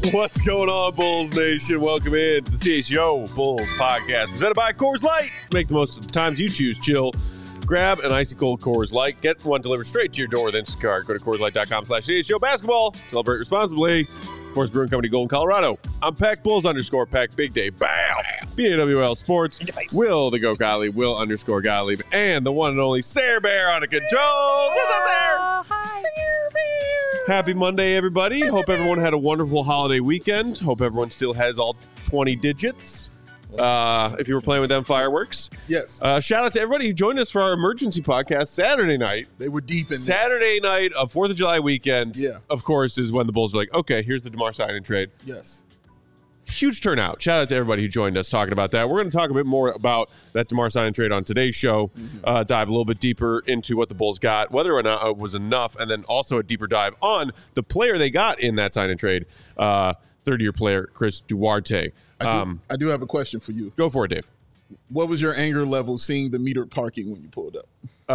What's going on, Bulls Nation? Welcome in to the CHGO Bulls podcast presented by Coors Light. Make the most of the times you choose chill. Grab an icy cold Coors Light. Get one delivered straight to your door with Instacart. Go to CoorsLight.com/CHGO basketball. Celebrate responsibly. Coors Brewing Company, Golden, Colorado. I'm Peck Bulls _Peck. Big Day. Bow. BAWL Sports. Will the Go Gottlieb. Will _ Gottlieb. And the one and only Sarah Bear on the controls. What's up there? Hi. Sarah Bear. Happy Monday, everybody. Hope everyone had a wonderful holiday weekend. Hope everyone still has all 20 digits. If you were playing with them fireworks. Yes. Shout out to everybody who joined us for our emergency podcast Saturday night. They were deep in Saturday night of 4th of July weekend. Yeah. Of course, is when the Bulls were like, okay, here's the DeMar sign and trade. Yes. Huge turnout. Shout out to everybody who joined us talking about that. We're going to talk a bit more about that DeMar sign and trade on today's show. Dive a little bit deeper into what the Bulls got, whether or not it was enough, and then also a deeper dive on the player they got in that sign and trade, third-year player Chris Duarte. I do have a question for you. Go for it, Dave. What was your anger level seeing the metered parking when you pulled up?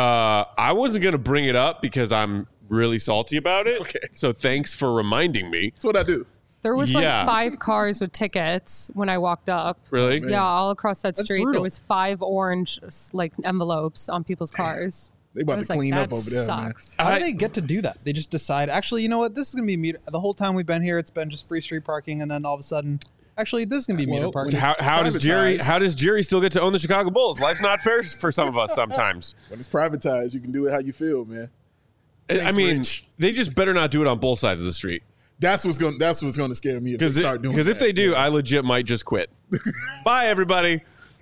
I wasn't going to bring it up because I'm really salty about it. Okay. So thanks for reminding me. That's what I do. There was like Yeah. 5 cars with tickets when I walked up. Really? Man. Yeah, all across that street. brutal. There was 5 orange like envelopes on people's cars. They I about was to like, clean up that over there, sucks. How do they get to do that? They just decide, actually, you know what? This is going to be meter. The whole time we've been here, it's been just free street parking, and then all of a sudden, actually, this is going to be meter Well, parking. How does Jerry still get to own the Chicago Bulls? Life's not fair for some of us sometimes. man. When it's privatized, you can do it how you feel, man. I Thanks, mean, Rich. they just better not do it on both sides of the street. That's what's going to scare me if they start doing Because that. if they do, I legit might just quit. Bye, everybody.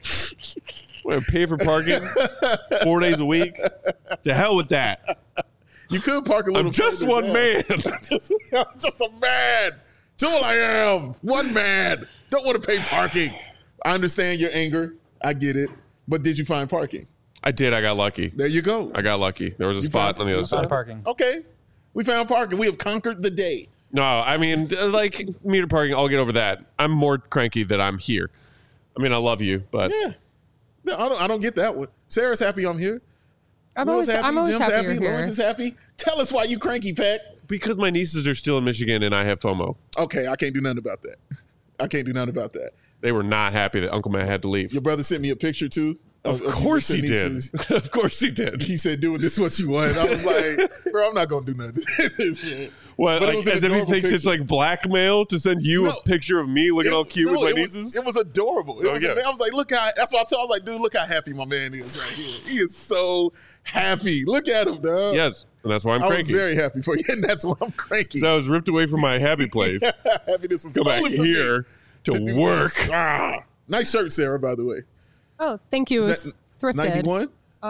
We're gonna pay for parking 4 days a week. To hell with that. You could park a little. I'm just further one down. man. I'm just a man. That's all I am. One man. Don't want to pay parking. I understand your anger. I get it. But did you find parking? I did. I got lucky. There you go. I got lucky. There was a You spot found- on the other you side. found parking. Okay. We found parking. We have conquered the day. No, I mean, like meter parking, I'll get over that. I'm more cranky that I'm here. I mean, I love you, but Yeah. No, I don't get that one. Sarah's happy I'm here. I'm Will's always Jim's happy happy. you're here. Lawrence is happy. Tell us why you cranky, Pat. because my nieces are still in Michigan and I have FOMO. Okay, I can't do nothing about that. I can't do nothing about that. They were not happy that Uncle Matt had to leave. Your brother sent me a picture too. Of course he your did. nieces. Of course he did. He said, "Do this what you want." I was like, "Bro, I'm not gonna do nothing." What, But it like, was an as if he adorable thinks it's picture. like blackmail to send you No. a picture of me looking all cute with my nieces? It was adorable. It was yeah. I was like, look how. That's why I was like, dude, look how happy my man is right here. He is so happy. Look at him, dog. Yes, and that's why I'm I was cranky. very happy for you, and that's why I'm cranky. So I was ripped away from my happy place. Happiness was Come back stolen from me here to do work. this. Ah. Nice shirt, Sarah, by the way. Oh, thank you. It Is was that thrifted. 91?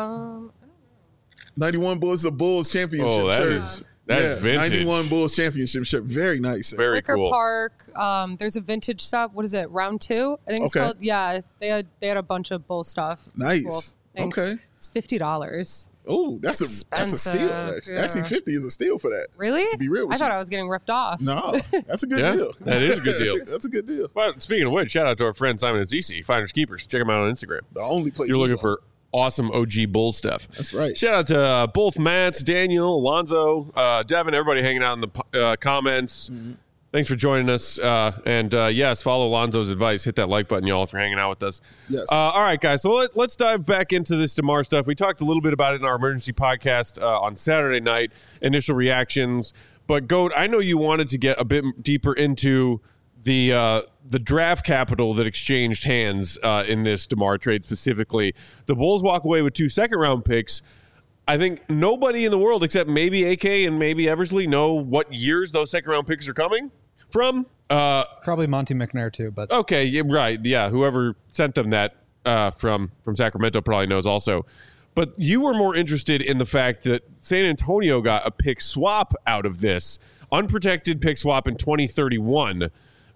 91 Bulls, a Bulls championship Oh, that shirt. is vintage. 91 Bulls championship shirt. Very nice. Sarah. Very Wicker cool. Park. There's a vintage shop. What is it? Round 2? I think it's Okay. called. Yeah, they had a bunch of Bull stuff. Nice. Cool. Thanks. Okay. It's $50. Oh, that's a steal. Expensive, Actually. yeah. Actually, 50 is a steal for that. Really? To be real with I thought you. I was getting ripped off. No, that's a good Yeah, deal. that is a good deal. That's a good deal. Well, speaking of which, shout out to our friend Simon and Cece, Finders Keepers. Check them out on Instagram. The only place If you're we looking go. for awesome OG Bull stuff. That's right. Shout out to both Matts, Daniel, Alonzo, Devin, everybody hanging out in the comments. Mm-hmm. Thanks for joining us. Yes, follow Alonzo's advice. Hit that like button, y'all, if you're hanging out with us. Yes. All right, guys. So let's dive back into this DeMar stuff. We talked a little bit about it in our emergency podcast on Saturday night, initial reactions. But, Goat, I know you wanted to get a bit deeper into the draft capital that exchanged hands in this DeMar trade specifically. The Bulls walk away with 2 second-round picks. I think nobody in the world except maybe AK and maybe Eversley know what years those second-round picks are coming from. Probably Monty McNair, too, but Okay, yeah, right. Yeah, whoever sent them that from Sacramento probably knows also. But you were more interested in the fact that San Antonio got a pick swap out of this, unprotected pick swap in 2031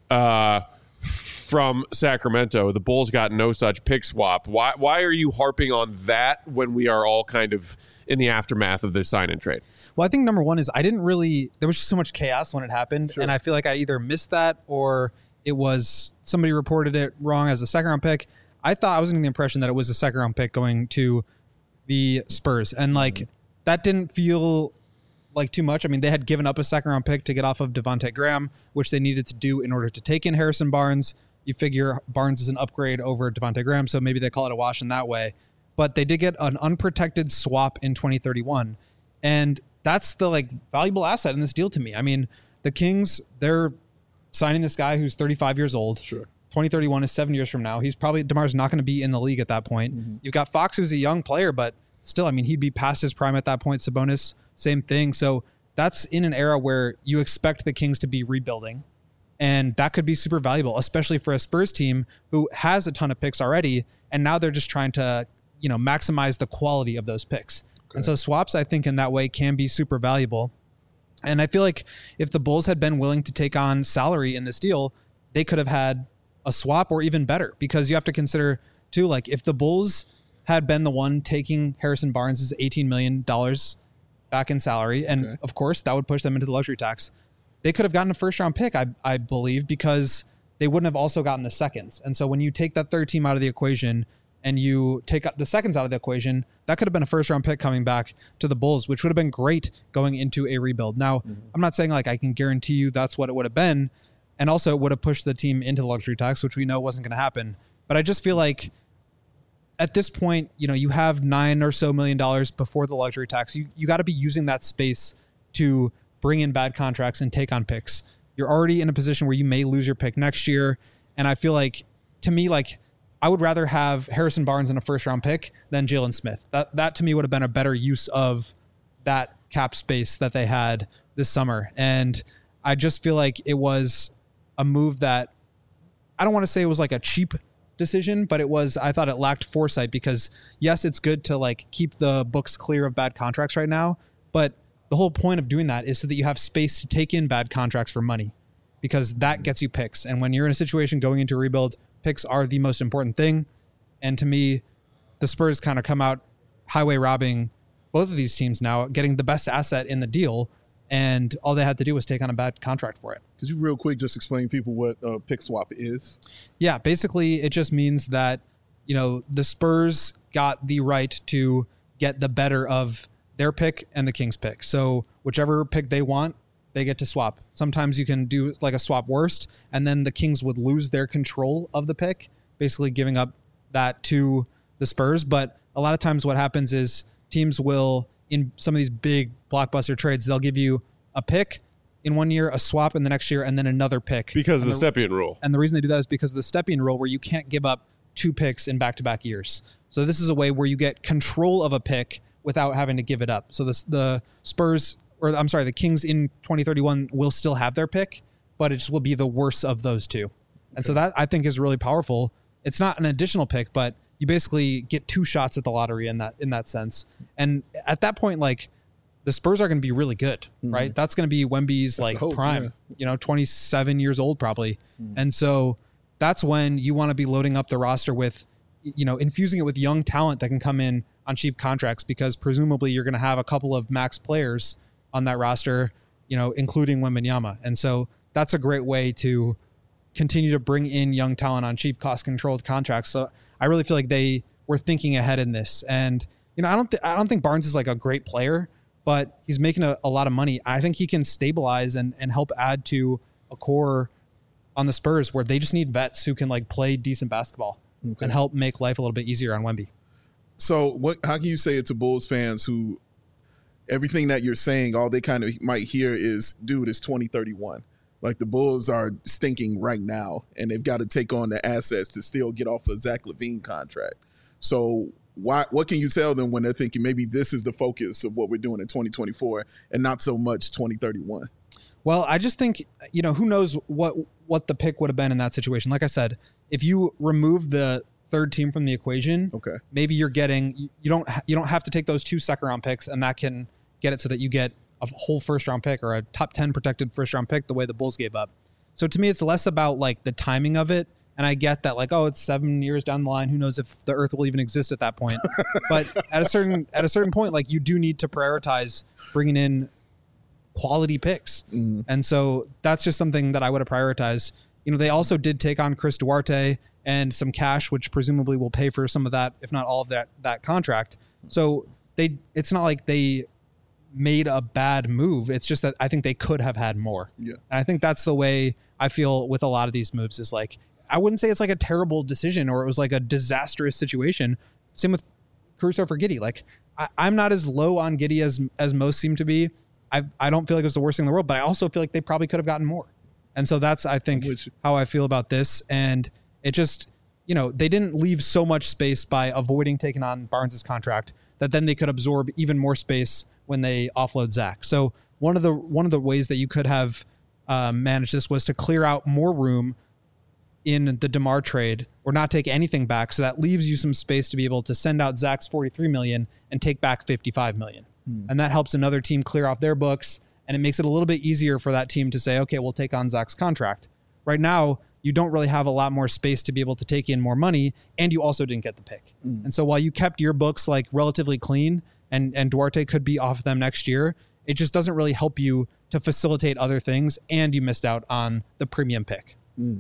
from Sacramento. The Bulls got no such pick swap. Why are you harping on that when we are all kind of in the aftermath of this sign and trade? well, I think number one is there was just so much chaos when it happened, and I feel like I either missed that or it was somebody reported it wrong as a second round pick. I was under the impression that it was a second round pick going to the Spurs, and like that didn't feel like too much. I mean, they had given up a second round pick to get off of Devontae Graham, which they needed to do in order to take in Harrison Barnes. You figure Barnes is an upgrade over Devontae Graham, so maybe they call it a wash in that way. But they did get an unprotected swap in 2031. And that's the like valuable asset in this deal to me. I mean, the Kings, they're signing this guy who's 35 years old. Sure. 2031 is 7 years from now. DeMar's not going to be in the league at that point. Mm-hmm. You've got Fox, who's a young player, but still, I mean, he'd be past his prime at that point. Sabonis, same thing. So that's in an era where you expect the Kings to be rebuilding. And that could be super valuable, especially for a Spurs team who has a ton of picks already. And now they're just trying to, maximize the quality of those picks. Okay. And so swaps, I think, in that way can be super valuable. And I feel like if the Bulls had been willing to take on salary in this deal, they could have had a swap or even better, because you have to consider too, like if the Bulls had been the one taking Harrison Barnes' $18 million back in salary, and of course that would push them into the luxury tax, they could have gotten a first round pick, I believe, because they wouldn't have also gotten the seconds. And so when you take that third team out of the equation and you take the seconds out of the equation, that could have been a first round pick coming back to the Bulls, which would have been great going into a rebuild. Now, I'm not saying like I can guarantee you that's what it would have been. And also it would have pushed the team into the luxury tax, which we know wasn't going to happen. But I just feel like at this point, you have $9 or so million before the luxury tax. You got to be using that space to bring in bad contracts and take on picks. You're already in a position where you may lose your pick next year. And I feel like, to me, like I would rather have Harrison Barnes in a first round pick than Jalen Smith. That to me would have been a better use of that cap space that they had this summer. And I just feel like it was a move that I don't want to say it was like a cheap decision, but I thought it lacked foresight, because yes, it's good to like keep the books clear of bad contracts right now, but the whole point of doing that is so that you have space to take in bad contracts for money, because that gets you picks. And when you're in a situation going into a rebuild, picks are the most important thing. And to me, the Spurs kind of come out highway robbing both of these teams now, getting the best asset in the deal. And all they had to do was take on a bad contract for it. Could you real quick just explain to people what pick swap is? Yeah, basically it just means that, the Spurs got the right to get the better of their pick and the Kings pick. So whichever pick they want, they get to swap. Sometimes you can do like a swap worst, and then the Kings would lose their control of the pick, basically giving up that to the Spurs. But a lot of times what happens is teams will, in some of these big blockbuster trades, they'll give you a pick in 1 year, a swap in the next year, and then another pick. Because of the Stepien rule. And the reason they do that is because of the Stepien rule, where you can't give up 2 picks in back-to-back years. So this is a way where you get control of a pick without having to give it up. So the Kings in 2031 will still have their pick, but it just will be the worst of those two. And so that I think is really powerful. It's not an additional pick, but you basically get 2 shots at the lottery in that sense. And at that point, like the Spurs are going to be really good, right? That's going to be Wemby's prime, 27 years old probably. And so that's when you want to be loading up the roster with, infusing it with young talent that can come in on cheap contracts, because presumably you're going to have a couple of max players on that roster, including Wembanyama. And so that's a great way to continue to bring in young talent on cheap, cost-controlled contracts. So I really feel like they were thinking ahead in this. And, I don't think Barnes is like a great player, but he's making a lot of money. I think he can stabilize and help add to a core on the Spurs where they just need vets who can like play decent basketball and help make life a little bit easier on Wemby. So how can you say it to Bulls fans who everything that you're saying, all they kind of might hear is, dude, it's 2031. Like the Bulls are stinking right now, and they've got to take on the assets to still get off a Zach LaVine contract. So what can you tell them when they're thinking maybe this is the focus of what we're doing in 2024 and not so much 2031? Well, I just think, who knows what the pick would have been in that situation. Like I said, if you remove the third team from the equation, maybe you're getting, you don't have to take those 2 second round picks, and that can get it so that you get a whole first round pick or a top 10 protected first round pick the way the Bulls gave up. So to me, it's less about like the timing of it. And I get that like, it's 7 years down the line. Who knows if the earth will even exist at that point. But at a certain point, like you do need to prioritize bringing in quality picks. And so that's just something that I would have prioritized. They also did take on Chris Duarte and some cash, which presumably will pay for some of that, if not all of that contract. So it's not like they made a bad move. It's just that I think they could have had more. Yeah. And I think that's the way I feel with a lot of these moves is like, I wouldn't say it's like a terrible decision or it was like a disastrous situation. Same with Caruso for Giddey. Like I'm not as low on Giddey as most seem to be. I don't feel like it was the worst thing in the world, but I also feel like they probably could have gotten more. And so that's, I think, how I feel about this. And it just, you know, they didn't leave so much space by avoiding taking on Barnes's contract that then they could absorb even more space when they offload Zach. So one of the ways that you could have managed this was to clear out more room in the DeMar trade or not take anything back. So that leaves you some space to be able to send out Zach's $43 million and take back $55 million. And that helps another team clear off their books. And it makes it a little bit easier for that team to say, okay, we'll take on Zach's contract. Right now, you don't really have a lot more space to be able to take in more money. And you also didn't get the pick. And so while you kept your books like relatively clean and Duarte could be off them next year, it just doesn't really help you to facilitate other things. And you missed out on the premium pick.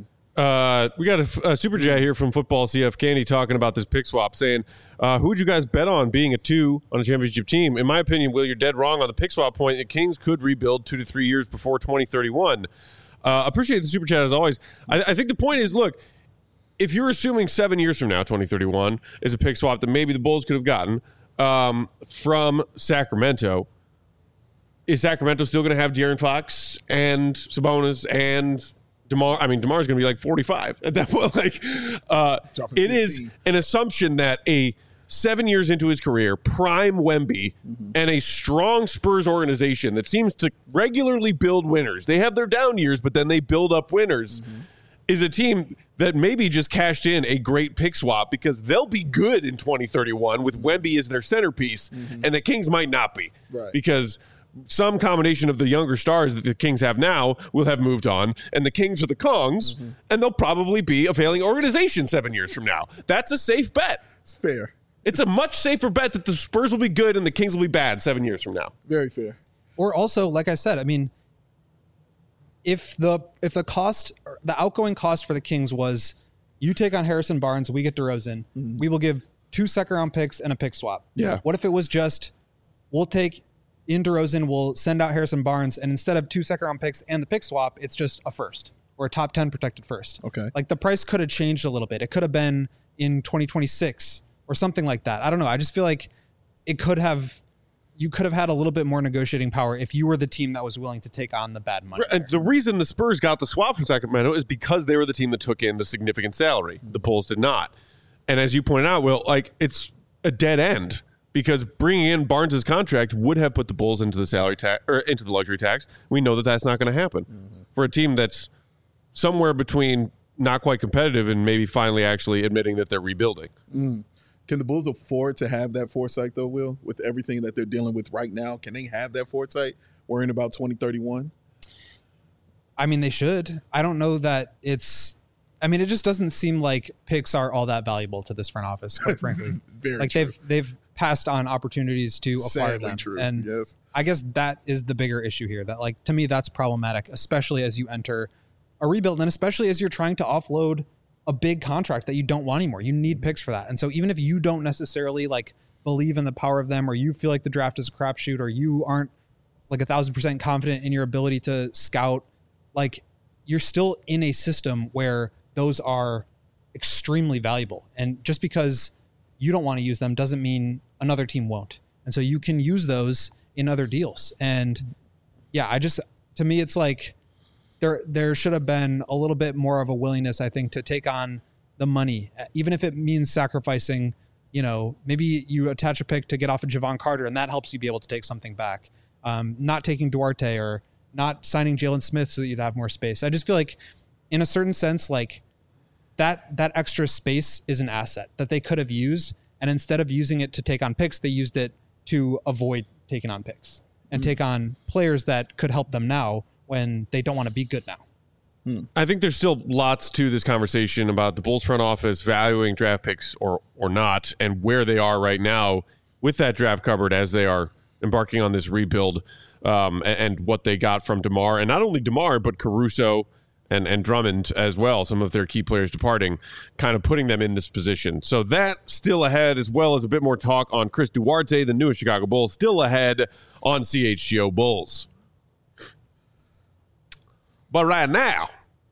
We got a super chat here from Football CF Candy talking about this pick swap, saying, who would you guys bet on being a 2 on a championship team? In my opinion, Will, you're dead wrong on the pick swap point. The Kings could rebuild 2 to 3 years before 2031. Appreciate the super chat as always. I think the point is, look, if you're assuming 7 years from now, 2031, is a pick swap that maybe the Bulls could have gotten from Sacramento, is Sacramento still going to have De'Aaron Fox and Sabonis and DeMar? I mean, DeMar's going to be like 45 at that point. Like, it is an assumption that a 7 years into his career, prime Wemby, and a strong Spurs organization that seems to regularly build winners. They have their down years, but then they build up winners. Is a team that maybe just cashed in a great pick swap because they'll be good in 2031 with Wemby as their centerpiece, and the Kings might not be. Right. Because some combination of the younger stars that the Kings have now will have moved on, and the Kings are the Kongs, and they'll probably be a failing organization 7 years from now. That's a safe bet. It's fair. It's a much safer bet that the Spurs will be good and the Kings will be bad 7 years from now. Very fair. Or also, like I said, I mean, if the cost, the outgoing cost for the Kings was you take on Harrison Barnes, we get DeRozan, we will give 2 second-round picks and a pick swap. Yeah. What if it was just we'll take in DeRozan, we'll send out Harrison Barnes, and instead of 2 second-round picks and the pick swap, it's just a first or a top 10 protected first. Okay. Like the price could have changed a little bit. It could have been in 2026 or something like that. I don't know. I just feel like you could have had a little bit more negotiating power if you were the team that was willing to take on the bad money. And the reason the Spurs got the swap from Sacramento is because they were the team that took in the significant salary. The Bulls did not. And as you pointed out, Will, like it's a dead end because bringing in Barnes's contract would have put the Bulls into the salary tax or into the luxury tax. We know that that's not going to happen for a team that's somewhere between not quite competitive and maybe finally actually admitting that they're rebuilding. Can the Bulls afford to have that foresight, though, Will, with everything that they're dealing with right now? Can they have that foresight worrying about 2031? I mean, they should. I don't know that it's – I mean, it just doesn't seem like picks are all that valuable to this front office, quite frankly. Very like true. They've passed on opportunities to acquire Sadly them. true. And Yes. I guess that is the bigger issue here. That, like, to me, that's problematic, especially as you enter a rebuild and especially as you're trying to offload – a big contract that you don't want anymore. You need picks for that. And so even if you don't necessarily like believe in the power of them or you feel like the draft is a crapshoot or you aren't like 1,000% confident in your ability to scout, like you're still in a system where those are extremely valuable. And just because you don't want to use them doesn't mean another team won't. And so you can use those in other deals. And yeah, to me, it's like, there should have been a little bit more of a willingness, I think, to take on the money, even if it means sacrificing, you know, maybe you attach a pick to get off of Javon Carter and that helps you be able to take something back. Not taking Duarte or not signing Jalen Smith so that you'd have more space. I just feel like in a certain sense, like that extra space is an asset that they could have used. And instead of using it to take on picks, they used it to avoid taking on picks and take on players that could help them now when they don't want to be good now. I think there's still lots to this conversation about the Bulls front office valuing draft picks or not and where they are right now with that draft cupboard as they are embarking on this rebuild and what they got from DeMar. And not only DeMar, but Caruso and Drummond as well, some of their key players departing, kind of putting them in this position. So that still ahead, as well as a bit more talk on Chris Duarte, the newest Chicago Bull, still ahead on CHGO Bulls. But right now,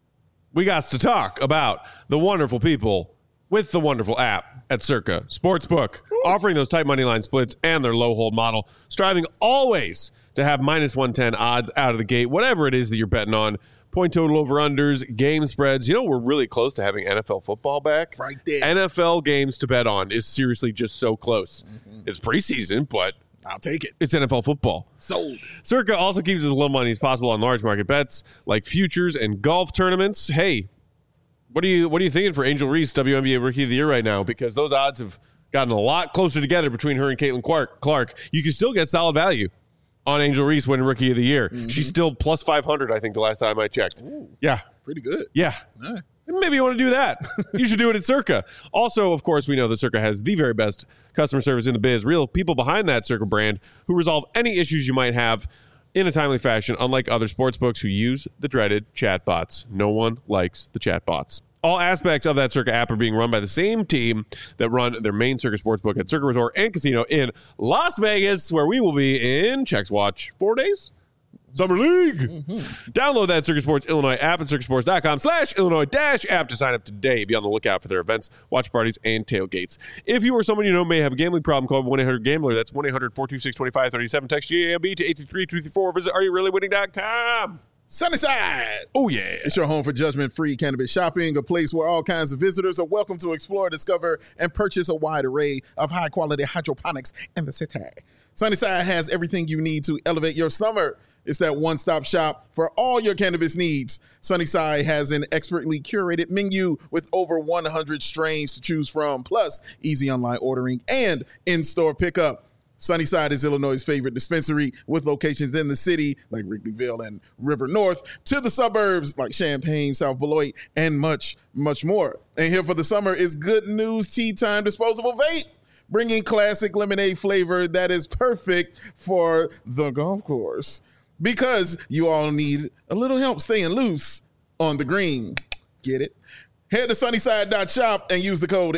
we got to talk about the wonderful people with the wonderful app at Circa Sportsbook, offering those tight money line splits and their low hold model, striving always to have minus 110 odds out of the gate, whatever it is that you're betting on. Point total over-unders, game spreads. You know, we're really close to having NFL football back. Right there. NFL games to bet on is seriously just so close. It's preseason, but I'll take it. it's NFL football. Sold. Circa also keeps as little money as possible on large market bets like futures and golf tournaments. Hey, what are you thinking for Angel Reese, WNBA Rookie of the Year right now? Because those odds have gotten a lot closer together between her and Caitlin Clark. You can still get solid value on Angel Reese winning Rookie of the Year. She's still plus 500, I think, the last time I checked. Ooh, Yeah. pretty good. Yeah. All right. Maybe you want to do that. You should do it at Circa. Also, of course, we know that Circa has the very best customer service in the biz. Real people behind that Circa brand who resolve any issues you might have in a timely fashion, unlike other sportsbooks who use the dreaded chatbots. No one likes the chatbots. All aspects of that Circa app are being run by the same team that run their main Circa Sportsbook at Circa Resort and Casino in Las Vegas, where we will be in Chex Watch 4 days. Summer League. Download that Circa Sports Illinois app at circasports.com/Illinois-app to sign up today. Be on the lookout for their events, watch parties, and tailgates. If you or someone you know may have a gambling problem, call 1-800-GAMBLER. That's 1-800-426-2537. Text GAMB to 833-234. Visit areyourreallywinning.com. Sunnyside. Oh, yeah. It's your home for judgment-free cannabis shopping, a place where all kinds of visitors are welcome to explore, discover, and purchase a wide array of high-quality hydroponics in the city. Sunnyside has everything you need to elevate your summer. It's that one-stop shop for all your cannabis needs. Sunnyside has an expertly curated menu with over 100 strains to choose from, plus easy online ordering and in-store pickup. Sunnyside is Illinois' favorite dispensary, with locations in the city like Wrigleyville and River North, to the suburbs like Champaign, South Beloit, and much, much more. And here for the summer is Good News Tea Time Disposable Vape, bringing classic lemonade flavor that is perfect for the golf course. Because you all need a little help staying loose on the green. Get it? Head to sunnyside.shop and use the code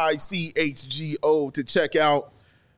HICHGO to check out.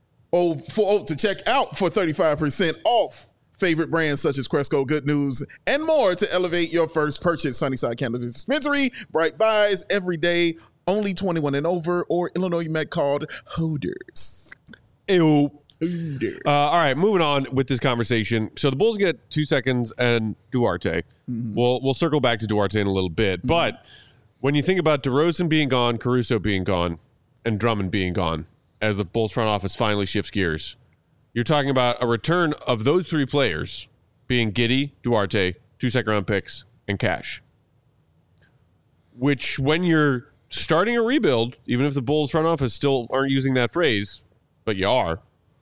To check out for 35% off favorite brands such as Cresco, Good News, and more to elevate your first purchase. Sunnyside Cannabis Dispensary, bright buys every day, only 21 and over, or Illinois Met called Holders. Ew. All right, moving on with this conversation. So the Bulls get 2 seconds and Duarte. We'll circle back to Duarte in a little bit. But when you think about DeRozan being gone, Caruso being gone, and Drummond being gone, as the Bulls front office finally shifts gears, you're talking about a return of those three players being Giddey, Duarte, 2 second-round picks, and cash. Which, when you're starting a rebuild, even if the Bulls front office still aren't using that phrase, but you are,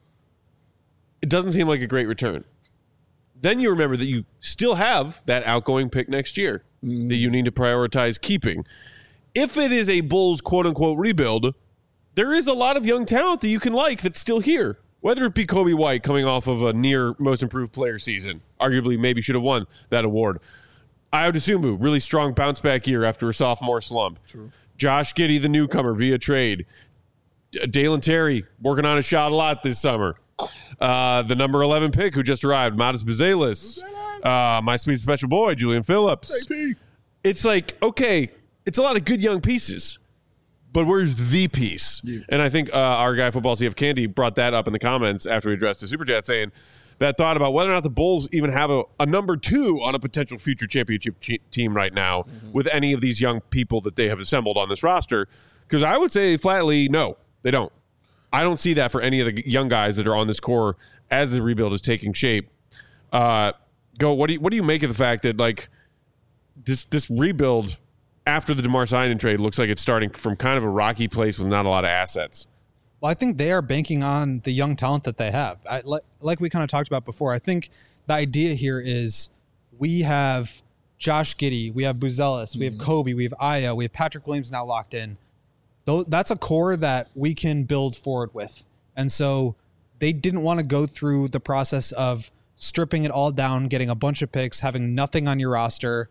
it doesn't seem like a great return. Then you remember that you still have that outgoing pick next year that you need to prioritize keeping. If it is a Bulls quote-unquote rebuild, there is a lot of young talent that you can like that's still here. Whether it be Kobe White coming off of a near most improved player season, arguably maybe should have won that award. Ayo Dosunmu, really strong bounce back year after a sophomore slump. True. Josh Giddey, the newcomer via trade. Dalen Terry working on a shot a lot this summer. The number 11 pick who just arrived, Matas Buzelis. My sweet special boy, Julian Phillips. AP. It's like, okay, it's a lot of good young pieces, but where's the piece? Yeah. And I think our guy, Football CF Candy, brought that up in the comments after we addressed the Super Chat, saying that thought about whether or not the Bulls even have a number 2 on a potential future championship team right now with any of these young people that they have assembled on this roster. Because I would say flatly, no, they don't. I don't see that for any of the young guys that are on this core as the rebuild is taking shape. What do you make of the fact that like this rebuild after the DeMar Simon trade looks like it's starting from kind of a rocky place with not a lot of assets? Well, I think they are banking on the young talent that they have. Like we kind of talked about before, I think the idea here is we have Josh Giddey, we have Buzelis, we have Kobe, we have Ayo, we have Patrick Williams now locked in. That's a core that we can build forward with. And so they didn't want to go through the process of stripping it all down, getting a bunch of picks, having nothing on your roster,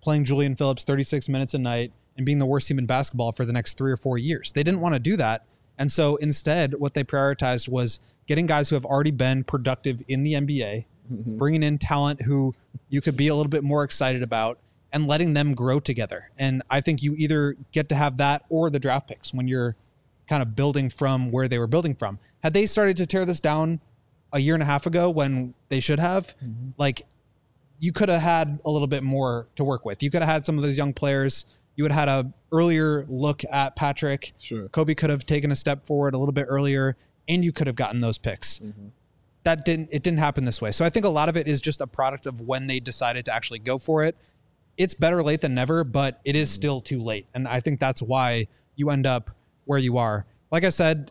playing Julian Phillips 36 minutes a night and being the worst team in basketball for the next 3 or 4 years. They didn't want to do that. And so instead, what they prioritized was getting guys who have already been productive in the NBA, bringing in talent who you could be a little bit more excited about, and letting them grow together. And I think you either get to have that or the draft picks when you're kind of building from where they were building from. Had they started to tear this down a year and a half ago when they should have, like, you could have had a little bit more to work with. You could have had some of those young players. You would have had a earlier look at Patrick. Sure. Kobe could have taken a step forward a little bit earlier, and you could have gotten those picks. It didn't happen this way. So I think a lot of it is just a product of when they decided to actually go for it. It's better late than never, but it is still too late. And I think that's why you end up where you are. Like I said,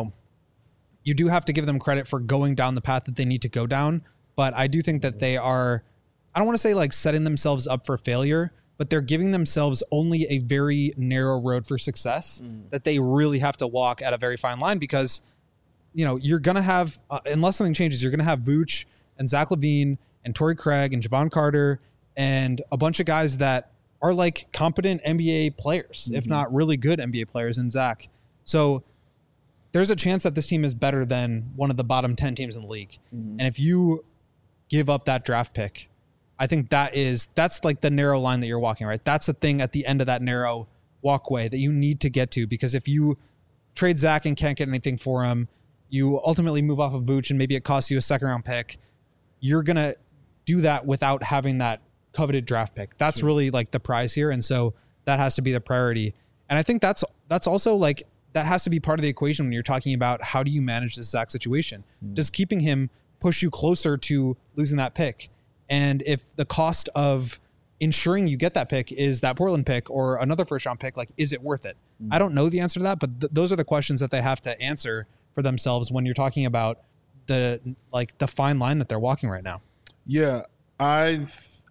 you do have to give them credit for going down the path that they need to go down. But I do think that they are, I don't want to say like setting themselves up for failure, but they're giving themselves only a very narrow road for success that they really have to walk at a very fine line, because, you're going to have, unless something changes, you're going to have Vooch and Zach LaVine and Torrey Craig and Javon Carter and a bunch of guys that are like competent NBA players, if not really good NBA players in Zach. So there's a chance that this team is better than one of the bottom 10 teams in the league. And if you give up that draft pick, I think that's like the narrow line that you're walking, right? That's the thing at the end of that narrow walkway that you need to get to, because if you trade Zach and can't get anything for him, you ultimately move off of Vooch and maybe it costs you a second round pick. You're going to do that without having that coveted draft pick. That's really like the prize here. And so that has to be the priority. And I think that's also like, that has to be part of the equation when you're talking about how do you manage this Zach situation. Does keeping him push you closer to losing that pick? And if the cost of ensuring you get that pick is that Portland pick or another first round pick, like, is it worth it? I don't know the answer to that, but those are the questions that they have to answer for themselves when you're talking about the fine line that they're walking right now. Yeah, I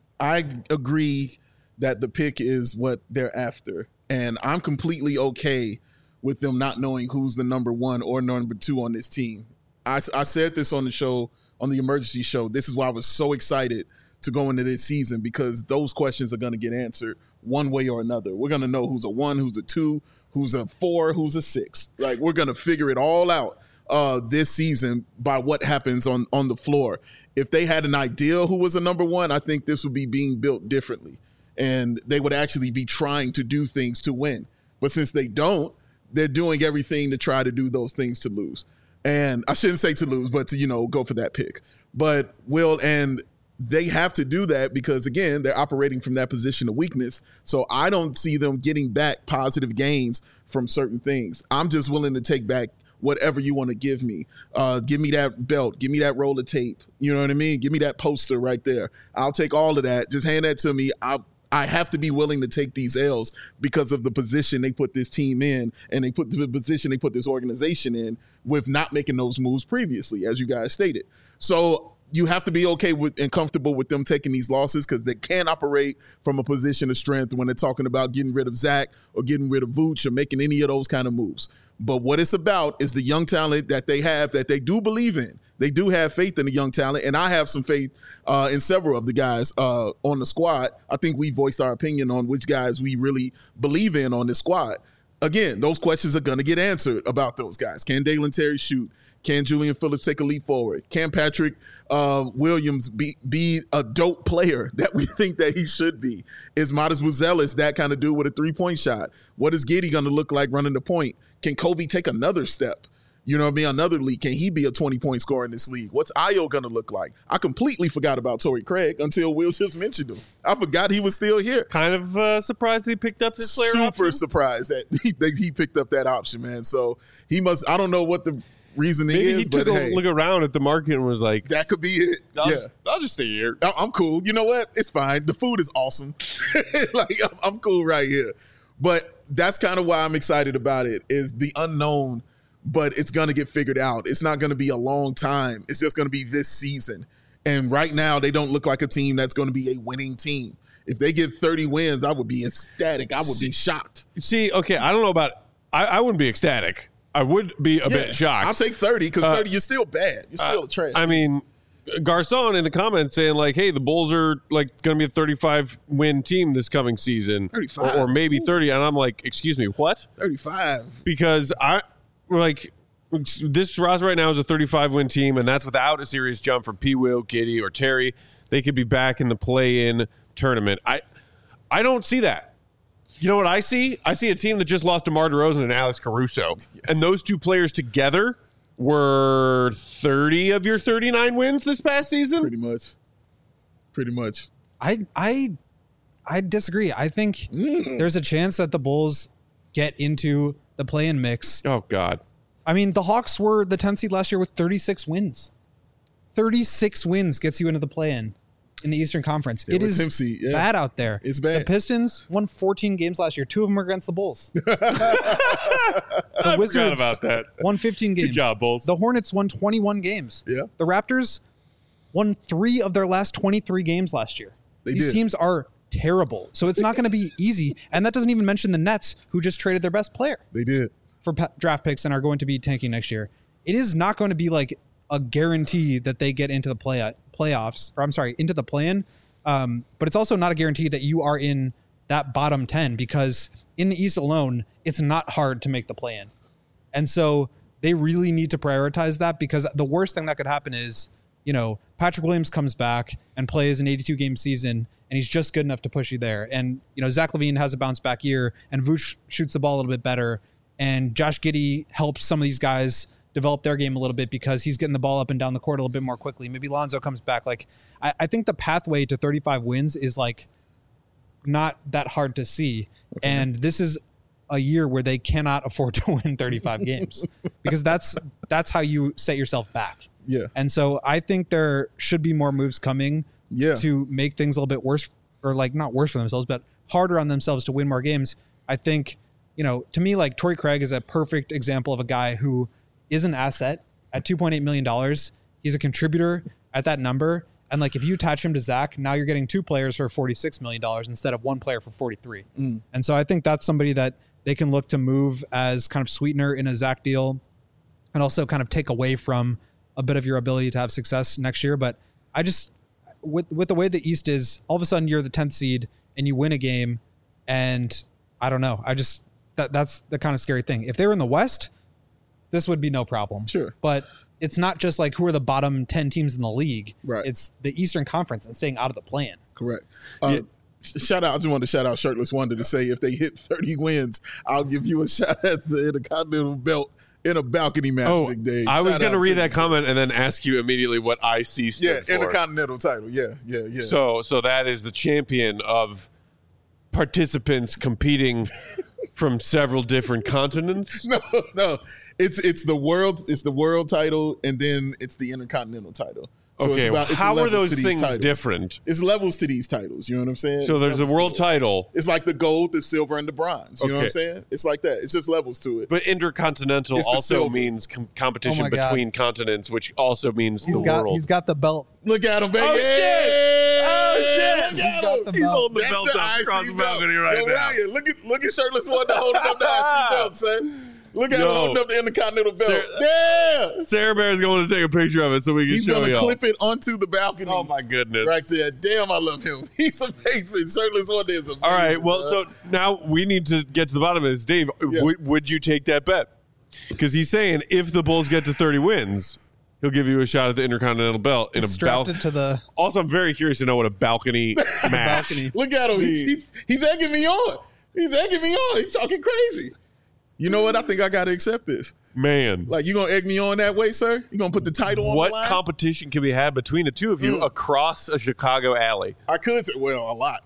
agree that the pick is what they're after. And I'm completely okay with them not knowing who's the number 1 or number 2 on this team. I said this on the show, on the emergency show. This is why I was so excited to go into this season, because those questions are going to get answered one way or another. We're going to know who's a 1, who's a 2, who's a 4, who's a 6. Like, we're going to figure it all out this season by what happens on the floor. If they had an idea who was a number 1, I think this would be being built differently. And they would actually be trying to do things to win. But since they don't, they're doing everything to try to do those things to lose. And I shouldn't say to lose, but to, go for that pick. But and they have to do that because, again, they're operating from that position of weakness. So I don't see them getting back positive gains from certain things. I'm just willing to take back whatever you want to give me. Give me that belt. Give me that roll of tape. You know what I mean? Give me that poster right there. I'll take all of that. Just hand that to me. I have to be willing to take these L's because of the position they put this team in, and the position they put this organization in with not making those moves previously, as you guys stated. So you have to be okay with and comfortable with them taking these losses, because they can't operate from a position of strength when they're talking about getting rid of Zach or getting rid of Vooch or making any of those kind of moves. But what it's about is the young talent that they have, that they do believe in. They do have faith in the young talent, and I have some faith in several of the guys on the squad. I think we voiced our opinion on which guys we really believe in on this squad. Again, those questions are going to get answered about those guys. Can Dalen Terry shoot? Can Julian Phillips take a leap forward? Can Patrick Williams be a dope player that we think that he should be? Is Modest Buzelis that kind of dude with a three-point shot? What is Giddey going to look like running the point? Can Kobe take another step? You know what I mean? Another league. Can he be a 20-point scorer in this league? What's Ayo going to look like? I completely forgot about Torrey Craig until Will just mentioned him. I forgot he was still here. Kind of surprised he picked up this player option. Super surprised that he picked up that option, man. So he must – I don't know what the reasoning Maybe is, he took a look around at the market and was like, that could be it. I'll just stay here. I'm cool. You know what? It's fine. The food is awesome. Like, I'm cool right here. But that's kind of why I'm excited about it, is the unknown. But it's going to get figured out. It's not going to be a long time. It's just going to be this season. And right now, they don't look like a team that's going to be a winning team. If they get 30 wins, I would be ecstatic. I would be shocked. See, okay, I don't know about – I wouldn't be ecstatic. I would be a bit shocked. I'll take 30 because 30, you're still bad. You're still trash. I mean, Garcon in the comments saying like, "Hey, the Bulls are like going to be a 35-win team this coming season, 35. or maybe 30." And I'm like, "Excuse me, what?" 35. Because this roster right now is a 35-win team, and that's without a serious jump from P. Will, Giddey, or Terry. They could be back in the play-in tournament. I don't see that. You know what I see? I see a team that just lost DeMar DeRozan and Alex Caruso. Yes. And those two players together were 30 of your 39 wins this past season? Pretty much. I disagree. I think there's a chance that the Bulls get into the play-in mix. Oh, God. I mean, the Hawks were the 10th seed last year with 36 wins. 36 wins gets you into the play-in in the Eastern Conference. It is bad out there. It's bad. The Pistons won 14 games last year. 2 of them were against the Bulls. The Wizards about that. won 15 games. Good job, Bulls. The Hornets won 21 games. Yeah. The Raptors won 3 of their last 23 games last year. These teams are terrible. So it's not going to be easy. And that doesn't even mention the Nets, who just traded their best player. They did. For draft picks and are going to be tanking next year. It is not going to be like a guarantee that they get into the playoffs, or I'm sorry, into the play-in. But it's also not a guarantee that you are in that bottom 10, because in the East alone, it's not hard to make the play-in. And so they really need to prioritize that, because the worst thing that could happen is, Patrick Williams comes back and plays an 82-game season, and he's just good enough to push you there. And, Zach LaVine has a bounce-back year, and Vooch shoots the ball a little bit better, and Josh Giddey helps some of these guys develop their game a little bit because he's getting the ball up and down the court a little bit more quickly. Maybe Lonzo comes back. Like, I think the pathway to 35 wins is like not that hard to see. Okay. And this is a year where they cannot afford to win 35 games because that's how you set yourself back. Yeah. And so I think there should be more moves coming to make things a little bit worse, or like not worse for themselves, but harder on themselves to win more games. I think, to me, like Torrey Craig is a perfect example of a guy who is an asset at $2.8 million. He's a contributor at that number. And like, if you attach him to Zach, now you're getting 2 players for $46 million instead of 1 player for 43. And so I think that's somebody that they can look to move as kind of sweetener in a Zach deal, and also kind of take away from a bit of your ability to have success next year. But I just, with the way the East is, all of a sudden you're the 10th seed and you win a game. And I don't know. That's the kind of scary thing. If they were in the West, this would be no problem. Sure. But it's not just like who are the bottom 10 teams in the league. Right. It's the Eastern Conference and staying out of the play-in. Correct. Shout out. I just wanted to shout out Shirtless Wonder to say if they hit 30 wins, I'll give you a shot at the Intercontinental Belt in a balcony match, Big Dave. I was going to read that comment and then ask you immediately what IC stood for. Intercontinental title. Yeah. So that is the champion of participants competing from several different continents. No. It's the world title, and then it's the Intercontinental title. So it's how are those things different? It's levels to these titles. You know what I'm saying? So there's the world title. It's like the gold, the silver, and the bronze. You know what I'm saying? It's like that. It's just levels to it. But Intercontinental also means competition between continents, which also means the world. He's got the belt. Look at him, baby. Oh, shit. He's got the He's belt. holding the belt up across the balcony right now. Ryan, look at Shirtless Wonder holding up the IC belt, son. Look at him holding up the Intercontinental belt. Sarah Bear is going to take a picture of it so we can show you. He's going to clip it onto the balcony. Oh, my goodness. Right there. Damn, I love him. He's amazing. Shirtless Wonder is amazing. All right, well, so now we need to get to the bottom of this. Dave, would you take that bet? Because he's saying if the Bulls get to 30 wins, he'll give you a shot at the Intercontinental belt in a balcony. Also, I'm very curious to know what a balcony match. Look at him. He's egging me on. He's talking crazy. You know what? I think I got to accept this. Man. Like, you going to egg me on that way, sir? You going to put the title on the line? What competition can be had between the two of you across a Chicago alley? I could say, a lot.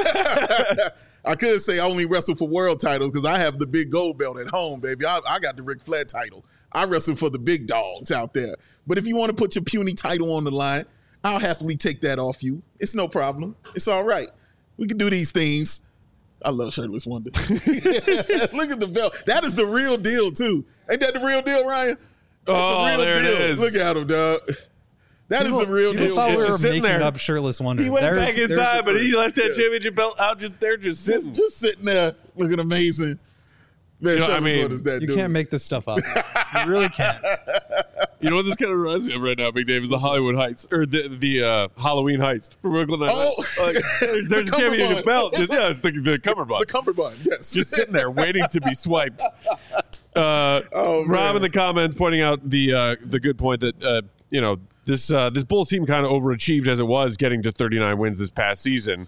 I could say I only wrestle for world titles because I have the big gold belt at home, baby. I got the Ric Flair title. I wrestle for the big dogs out there. But if you want to put your puny title on the line, I'll happily take that off you. It's no problem. It's all right. We can do these things. I love Shirtless Wonder. Look at the belt. That is the real deal, too. Ain't that the real deal, Ryan? That's the real deal. It is. Look at him, dog. That is the real deal. I thought we were making up Shirtless Wonder. He went back inside, but he left that championship belt out just there, just sitting. Just sitting there looking amazing. Man, you can't make this stuff up. You really can't. You know what this kind of reminds me of right now, Big Dave, is the Hollywood Heights or the Halloween Heist from Brooklyn Nine-Nine. There's a championship belt. It's the cummerbund. The cummerbund, yes. Just sitting there waiting to be swiped. Rob in the comments pointing out the good point that this Bulls team kind of overachieved as it was getting to 39 wins this past season.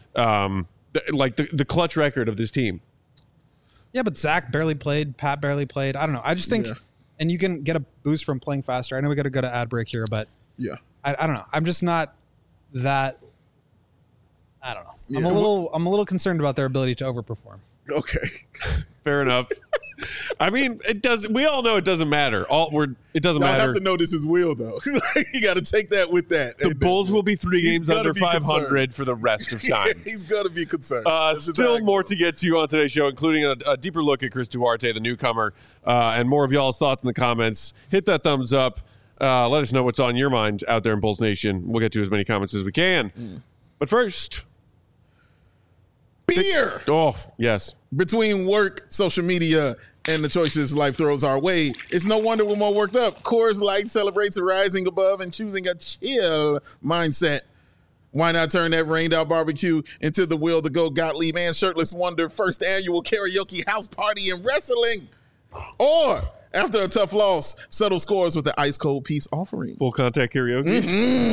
The clutch record of this team. Yeah, but Zach barely played. Pat barely played. I don't know. I just think, and you can get a boost from playing faster. I know we got to go to ad break here, but I don't know. I'm just not that. I don't know. Yeah. I'm a little concerned about their ability to overperform. Okay, fair enough. I mean, it does. We all know it doesn't matter. It doesn't matter. I have to know this is Will, though. You got to take that with that. The Bulls will be 3 games under 500 for the rest of time. He's got to be concerned. Still more to get to on today's show, including a deeper look at Chris Duarte, the newcomer, and more of y'all's thoughts in the comments. Hit that thumbs up. Let us know what's on your mind out there in Bulls Nation. We'll get to as many comments as we can. But first, beer. Oh, yes. Between work, social media, and the choices life throws our way, it's no wonder we're more worked up. Coors Light celebrates rising above and choosing a chill mindset. Why not turn that rained out barbecue into the Will to Go Gottlieb and Shirtless Wonder first annual karaoke house party in wrestling? Or after a tough loss, settle scores with the ice cold peace offering. Full contact karaoke.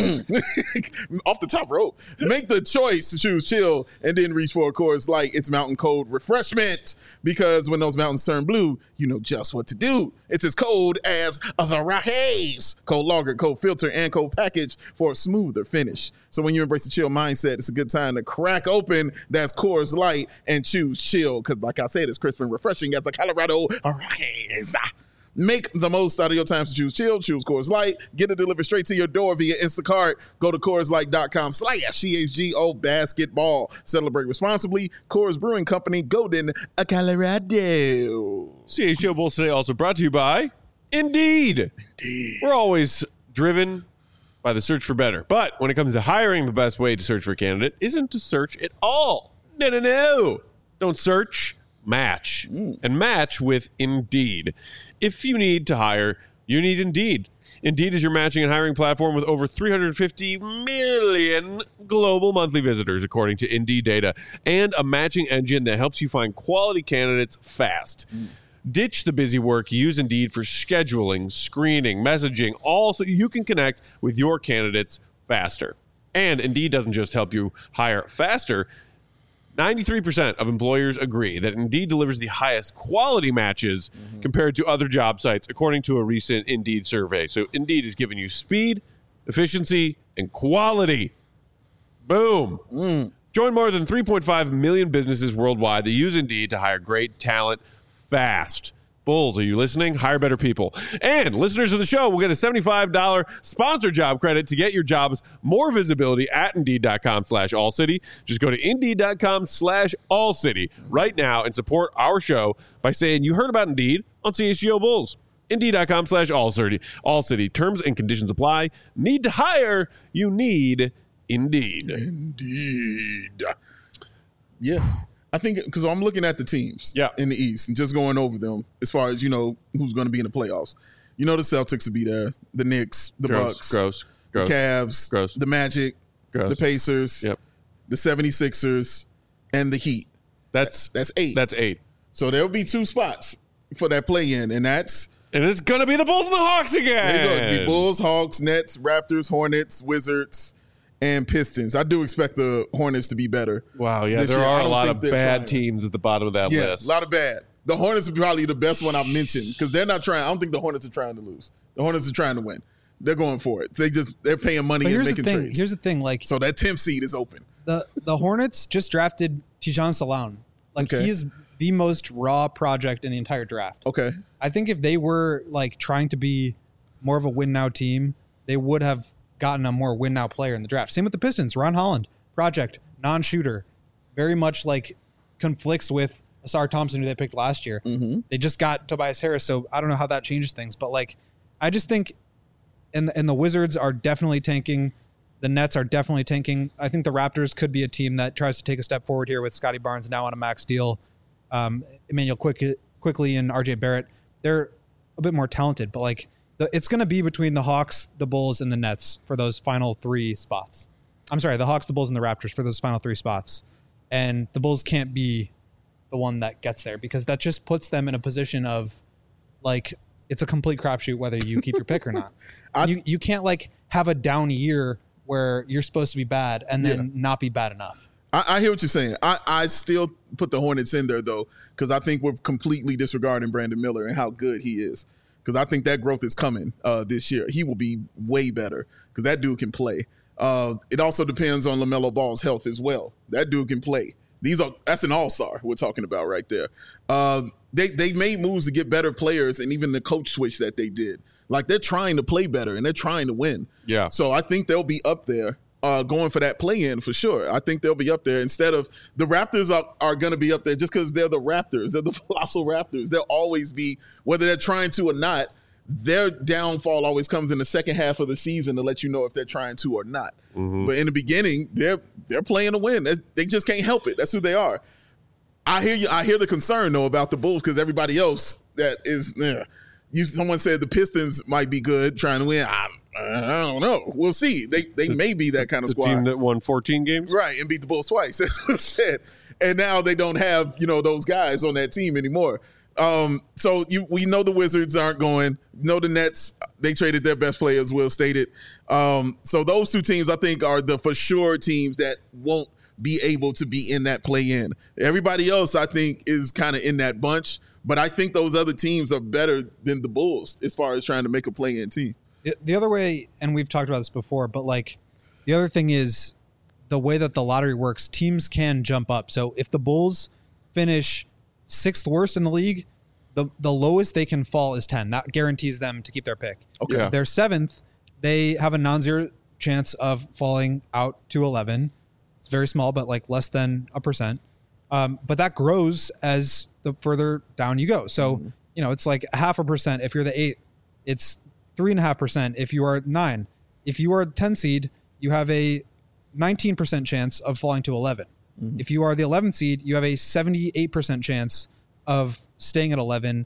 Off the top rope. Make the choice to choose chill and then reach for a Coors Light. It's mountain cold refreshment, because when those mountains turn blue, you know just what to do. It's as cold as the Rockies. Cold lager, cold filter, and cold package for a smoother finish. So when you embrace the chill mindset, it's a good time to crack open that Coors Light and choose chill, because like I said, it's crisp and refreshing as the Colorado Rockies. Make the most out of your time to choose chill. Choose Coors Light. Get it delivered straight to your door via Instacart. Go to CoorsLight.com/CHGO basketball. Celebrate responsibly. Coors Brewing Company, Golden, Colorado. CHGO Bulls today also brought to you by Indeed. We're always driven by the search for better. But when it comes to hiring, the best way to search for a candidate isn't to search at all. No. Don't search. Match. And match with Indeed. If you need to hire, you need Indeed. Indeed is your matching and hiring platform with over 350 million global monthly visitors, according to Indeed data, and a matching engine that helps you find quality candidates fast. Ditch the busy work. Use Indeed for scheduling, screening, messaging, all so you can connect with your candidates faster. And Indeed doesn't just help you hire faster. 93% of employers agree that Indeed delivers the highest quality matches compared to other job sites, according to a recent Indeed survey. So Indeed is giving you speed, efficiency, and quality. Boom. Join more than 3.5 million businesses worldwide that use Indeed to hire great talent fast. Bulls, are you listening? Hire better people. And listeners of the show will get a $75 sponsor job credit to get your jobs more visibility at Indeed.com/AllCity. Just go to Indeed.com/AllCity right now and support our show by saying you heard about Indeed on CHGO Bulls. Indeed.com/AllCity. AllCity. Terms and conditions apply. Need to hire? You need Indeed. Indeed. Yeah. I think because I'm looking at the teams in the East and just going over them as far as, who's going to be in the playoffs. The Celtics will be there, the Knicks, the Bucks, the Cavs, the Magic, the Pacers, the 76ers, and the Heat. That's 8. That's 8. So there'll be 2 spots for that play-in, and it's going to be the Bulls and the Hawks again. It'll be Bulls, Hawks, Nets, Raptors, Hornets, Wizards, and Pistons. I do expect the Hornets to be better. Wow, yeah, there are a lot of bad teams at the bottom of that list. A lot of bad. The Hornets are probably the best one I've mentioned because they're not trying. I don't think the Hornets are trying to lose. The Hornets are trying to win. They're going for it. They're paying money and making trades. Here's the thing, so that 10th seed is open. The Hornets just drafted Tijan Salam. He is the most raw project in the entire draft. Okay. I think if they were trying to be more of a win now team, they would have gotten a more win now player in the draft. Same with the Pistons. Ron Holland, project, non-shooter, very much conflicts with Asar Thompson, who they picked last year. They just got Tobias Harris, so I don't know how that changes things. But I just think, and the Wizards are definitely tanking. The Nets are definitely tanking. I think the Raptors could be a team that tries to take a step forward here with Scotty Barnes now on a max deal. Emmanuel Quickly and RJ Barrett. They're a bit more talented, but It's going to be between the Hawks, the Bulls, and the Nets for those final 3 spots. I'm sorry, the Hawks, the Bulls, and the Raptors for those final 3 spots. And the Bulls can't be the one that gets there because that just puts them in a position of like it's a complete crapshoot whether you keep your pick or not. You can't like have a down year where you're supposed to be bad and then not be bad enough. I hear what you're saying. I still put the Hornets in there, though, because I think we're completely disregarding Brandon Miller and how good he is. Because I think that growth is coming this year. He will be way better because that dude can play. It also depends on LaMelo Ball's health as well. That dude can play. That's an all-star we're talking about right there. They made moves to get better players, and even the coach switch that they did. Like, they're trying to play better, and they're trying to win. Yeah. So I think they'll be up there. Going for that play-in for sure. I think they'll be up there instead of the Raptors are going to be up there just because they're the Raptors. They're the colossal Raptors. They'll always be, whether they're trying to or not, their downfall always comes in the second half of the season to let you know if they're trying to or not. Mm-hmm. But in the beginning, they're playing to win. They just can't help it. That's who they are. I hear you. I hear the concern, though, about the Bulls because everybody else that is someone said the Pistons might be good trying to win. I don't know. We'll see. They may be that kind of squad. The team that won 14 games? Right, and beat the Bulls twice. That's what I said. And now they don't have, those guys on that team anymore. So we know the Wizards aren't going. Know the Nets, they traded their best players, Will stated. So those 2 teams, I think, are the for sure teams that won't be able to be in that play-in. Everybody else, I think, is kind of in that bunch. But I think those other teams are better than the Bulls as far as trying to make a play-in team. The other way, and we've talked about this before, but like the other thing is the way that the lottery works, teams can jump up. So if the Bulls finish 6th worst in the league, the lowest they can fall is 10. That guarantees them to keep their pick. Okay. Yeah. If they're 7th, they have a non-zero chance of falling out to 11. It's very small, but like less than 1%. But that grows as the further down you go. So, it's like 0.5% if you're the 8th. It's 3.5% if you are 9. If you are a 10 seed, you have a 19% chance of falling to 11. Mm-hmm. If you are the 11th seed, you have a 78% chance of staying at 11,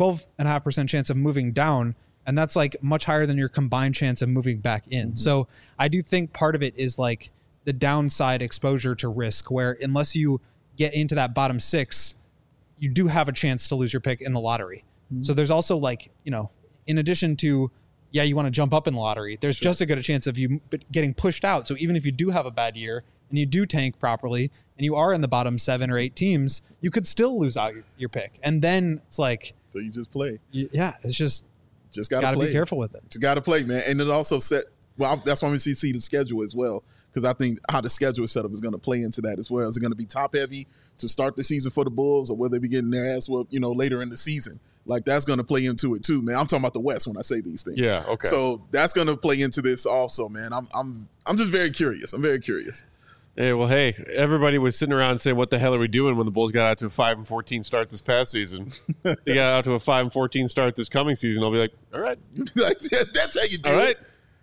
12.5% chance of moving down, and that's like much higher than your combined chance of moving back in. Mm-hmm. So I do think part of it is like the downside exposure to risk, where unless you get into that bottom 6, you do have a chance to lose your pick in the lottery. Mm-hmm. So there's also like, in addition to, you want to jump up in the lottery, there's just as good a chance of you getting pushed out. So even if you do have a bad year and you do tank properly and you are in the bottom 7 or 8 teams, you could still lose out your pick. And then it's like... So you just play. It's just got to be careful with it. Just got to play, man. And it also that's why we see the schedule as well, because I think how the schedule is set up is going to play into that as well. Is it going to be top heavy to start the season for the Bulls, or will they be getting their ass whooped, later in the season? Like, that's going to play into it too, man. I'm talking about the West when I say these things. Yeah, okay. So that's going to play into this also, man. I'm just very curious. I'm very curious. Hey, well, everybody was sitting around saying, "What the hell are we doing?" when the Bulls got out to a 5-14 start this past season. They got out to a 5-14 start this coming season. I'll be like, all right, that's how you do all it. right.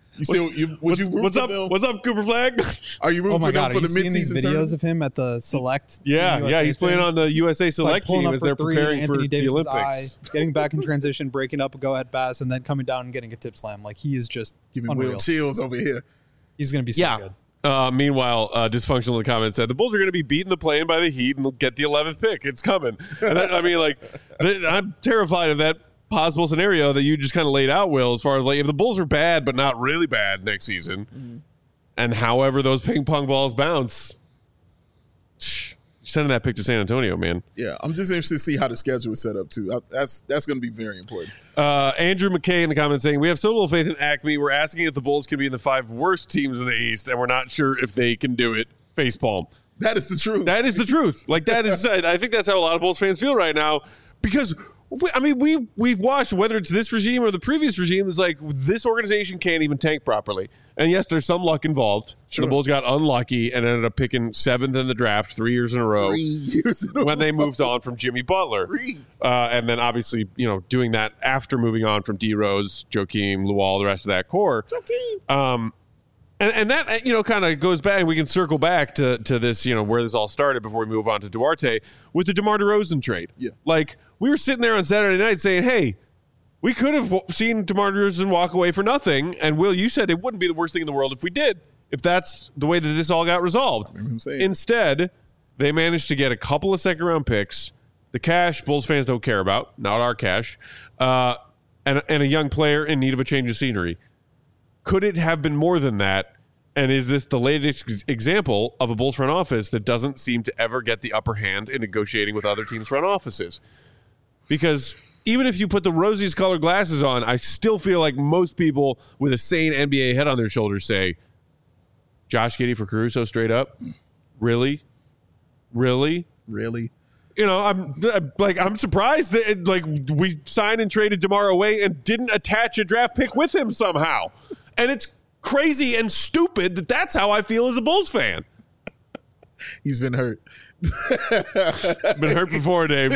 What's up? What's up, Cooper Flag? Are you rooting for them for the midseason videos tournament? of him at the Select? Yeah, he's playing on the USA Select team as they're preparing for the Olympics. Getting back in transition, breaking up a go-ahead pass, and then coming down and getting a tip slam. Like, he is just giving unreal. Will chills over here. He's going to be so good. Meanwhile, Dysfunctional in the comments said the Bulls are going to be beaten the play-in by the Heat and they'll get the 11th pick. It's coming. And I'm terrified of that possible scenario that you just kind of laid out, Will, as far as like if the Bulls are bad but not really bad next season, and however those ping pong balls bounce, sending that pick to San Antonio, man. Yeah, I'm just interested to see how the schedule is set up too. That's going to be very important. Andrew McKay in the comments saying, we have so little faith in Acme. We're asking if the Bulls can be in the 5 worst teams in the East, and we're not sure if they can do it. Facepalm. That is the truth. That is the truth. Like, that is, I think that's how a lot of Bulls fans feel right now, because we've watched, whether it's this regime or the previous regime, it's like this organization can't even tank properly. And yes, there's some luck involved. Sure. The Bulls got unlucky and ended up picking 7th in the draft 3 years in a row when they moved on from Jimmy Butler. And then obviously, doing that after moving on from D Rose, Joakim, Luol, the rest of that core. And that, kind of goes back, and we can circle back to this, where this all started before we move on to Duarte with the DeMar DeRozan trade. Yeah. Like, we were sitting there on Saturday night saying, hey, we could have seen DeMar DeRozan walk away for nothing. And Will, you said it wouldn't be the worst thing in the world if we did, if that's the way that this all got resolved. Instead, they managed to get a couple of second-round picks, the cash Bulls fans don't care about, not our cash, and a young player in need of a change of scenery. Could it have been more than that? And is this the latest example of a Bulls front office that doesn't seem to ever get the upper hand in negotiating with other teams' front offices? Because even if you put the rosiest colored glasses on, I still feel like most people with a sane NBA head on their shoulders say, Josh Giddey for Caruso straight up? Really? You know, I'm surprised that we signed and traded DeMar away and didn't attach a draft pick with him somehow. And it's crazy and stupid that's how I feel as a Bulls fan. He's been hurt. Been hurt before, Dave.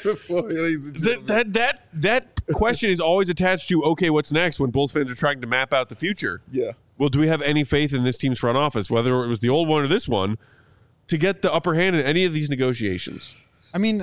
That question is always attached to, okay, what's next when Bulls fans are trying to map out the future? Yeah. Well, do we have any faith in this team's front office, whether it was the old one or this one, to get the upper hand in any of these negotiations? I mean,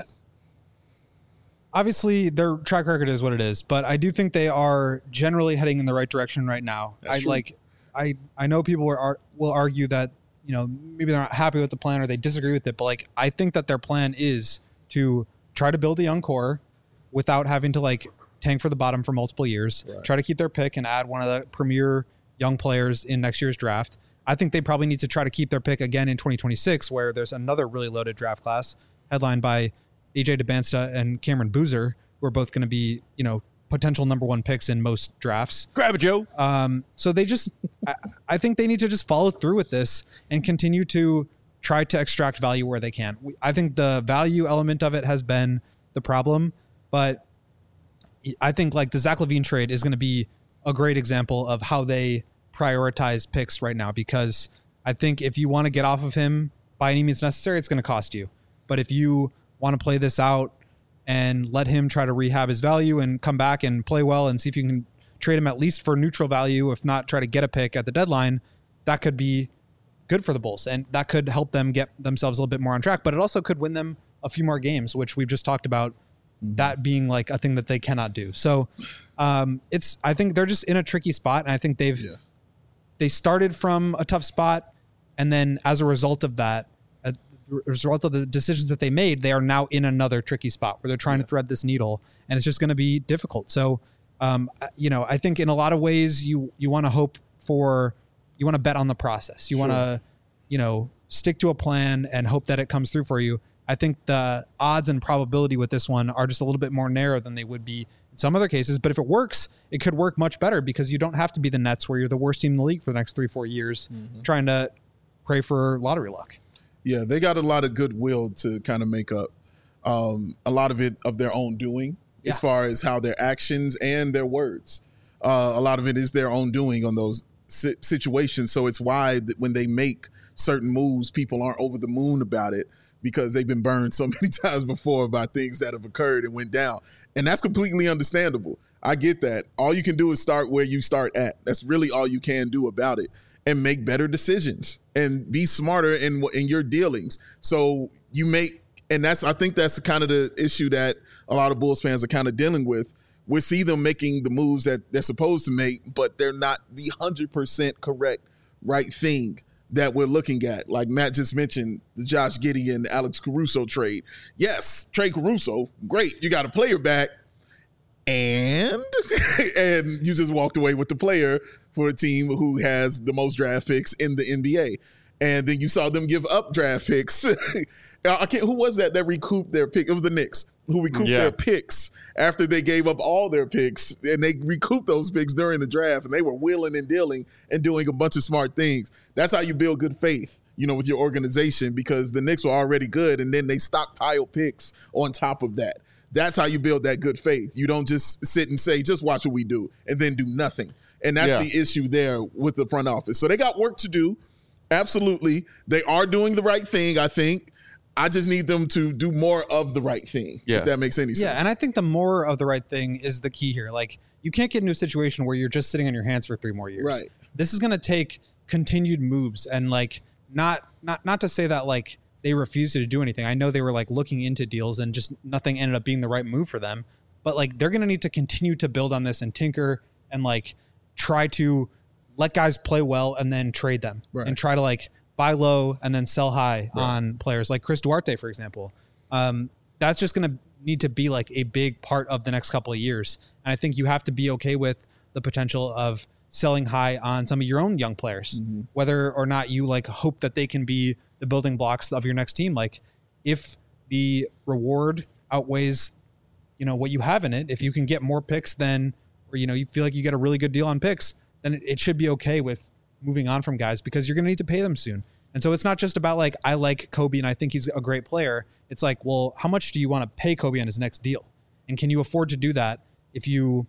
obviously their track record is what it is, but I do think they are generally heading in the right direction right now. I know people will argue that, you know, maybe they're not happy with the plan or they disagree with it, but I think that their plan is to try to build a young core without having to tank for the bottom for multiple years, try to keep their pick and add one of the premier young players in next year's draft. I think they probably need to try to keep their pick again in 2026, where there's another really loaded draft class headlined by AJ DeBansta and Cameron Boozer, who are both going to be, you know, potential number one picks in most drafts. Grab it, Joe. So they just, I think they need to just follow through with this and continue to try to extract value where they can. I think the value element of it has been the problem, but I think the Zach LaVine trade is going to be a great example of how they prioritize picks right now, because I think if you want to get off of him by any means necessary, it's going to cost you. But if you want to play this out and let him try to rehab his value and come back and play well and see if you can trade him at least for neutral value, if not try to get a pick at the deadline, that could be good for the Bulls. And that could help them get themselves a little bit more on track, but it also could win them a few more games, which we've just talked about, that being a thing that they cannot do. So I think they're just in a tricky spot. And I think they started from a tough spot. And then as a result of that, as a result of the decisions that they made, they are now in another tricky spot where they're trying to thread this needle, and it's just going to be difficult. So, I think in a lot of ways you want to hope for, you want to bet on the process. You want to, stick to a plan and hope that it comes through for you. I think the odds and probability with this one are just a little bit more narrow than they would be in some other cases. But if it works, it could work much better, because you don't have to be the Nets, where you're the worst team in the league for the next 3-4 years, trying to pray for lottery luck. Yeah, they got a lot of goodwill to kind of make up a lot of it of their own doing, as far as how their actions and their words. A lot of it is their own doing on those situations. So it's why when they make certain moves, people aren't over the moon about it, because they've been burned so many times before by things that have occurred and went down. And that's completely understandable. I get that. All you can do is start where you start at. That's really all you can do about it, and make better decisions and be smarter in your dealings. So you make, and I think that's kind of the issue that a lot of Bulls fans are kind of dealing with. We see them making the moves that they're supposed to make, but they're not the 100% correct right thing that we're looking at. Like Matt just mentioned, the Josh Giddey and Alex Caruso trade. Yes, trade Caruso, great. You got a player back, and you just walked away with the player for a team who has the most draft picks in the NBA. And then you saw them give up draft picks. Who was that recouped their pick? It was the Knicks who recouped their picks after they gave up all their picks, and they recouped those picks during the draft, and they were wheeling and dealing and doing a bunch of smart things. That's how you build good faith, with your organization, because the Knicks were already good, and then they stockpile picks on top of that. That's how you build that good faith. You don't just sit and say, just watch what we do, and then do nothing. And that's the issue there with the front office. So they got work to do. Absolutely. They are doing the right thing, I think. I just need them to do more of the right thing, if that makes any sense. Yeah, and I think the more of the right thing is the key here. You can't get into a situation where you're just sitting on your hands for 3 more years. Right. This is going to take continued moves, and not to say that they refused to do anything. I know they were looking into deals, and just nothing ended up being the right move for them. but like they're going to need to continue to build on this and tinker and like try to let guys play well and then trade them and try to like buy low and then sell high on players like Chris Duarte, for example. That's just going to need to be like a big part of the next couple of years. And I think you have to be okay with the potential of selling high on some of your own young players, whether or not you like hope that they can be the building blocks of your next team. Like if the reward outweighs, you know, what you have in it, if you can get more picks than, or, you know, you feel like you get a really good deal on picks, then it should be okay with moving on from guys because you're going to need to pay them soon. And so it's not just about like, I like Kobe and I think he's a great player. It's like, well, how much do you want to pay Kobe on his next deal? And can you afford to do that if you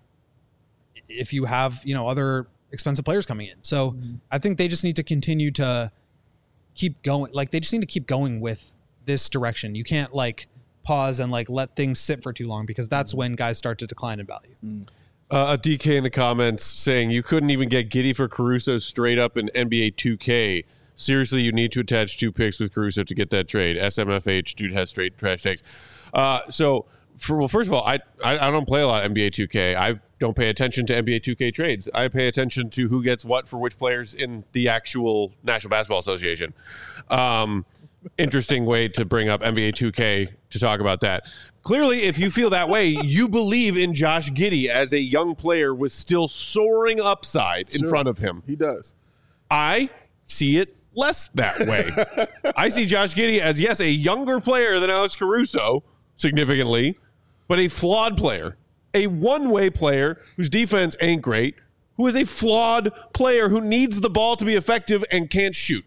have, you know, other expensive players coming in? So I think they just need to continue to keep going. Like they just need to keep going with this direction. You can't like pause and like let things sit for too long because that's when guys start to decline in value. A DK in the comments saying you couldn't even get Giddey for Caruso straight up in NBA 2K. Seriously, you need to attach 2 picks with Caruso to get that trade. SMFH, dude has straight trash takes. First of all, I don't play a lot of NBA 2K. I don't pay attention to NBA 2K trades. I pay attention to who gets what for which players in the actual National Basketball Association. Interesting way to bring up NBA 2K to talk about that. Clearly, if you feel that way, you believe in Josh Giddey as a young player with still soaring upside in front of him. He does. I see it less that way. I see Josh Giddey as, yes, a younger player than Alex Caruso, significantly, but a flawed player. A one-way player whose defense ain't great, who is a flawed player who needs the ball to be effective and can't shoot.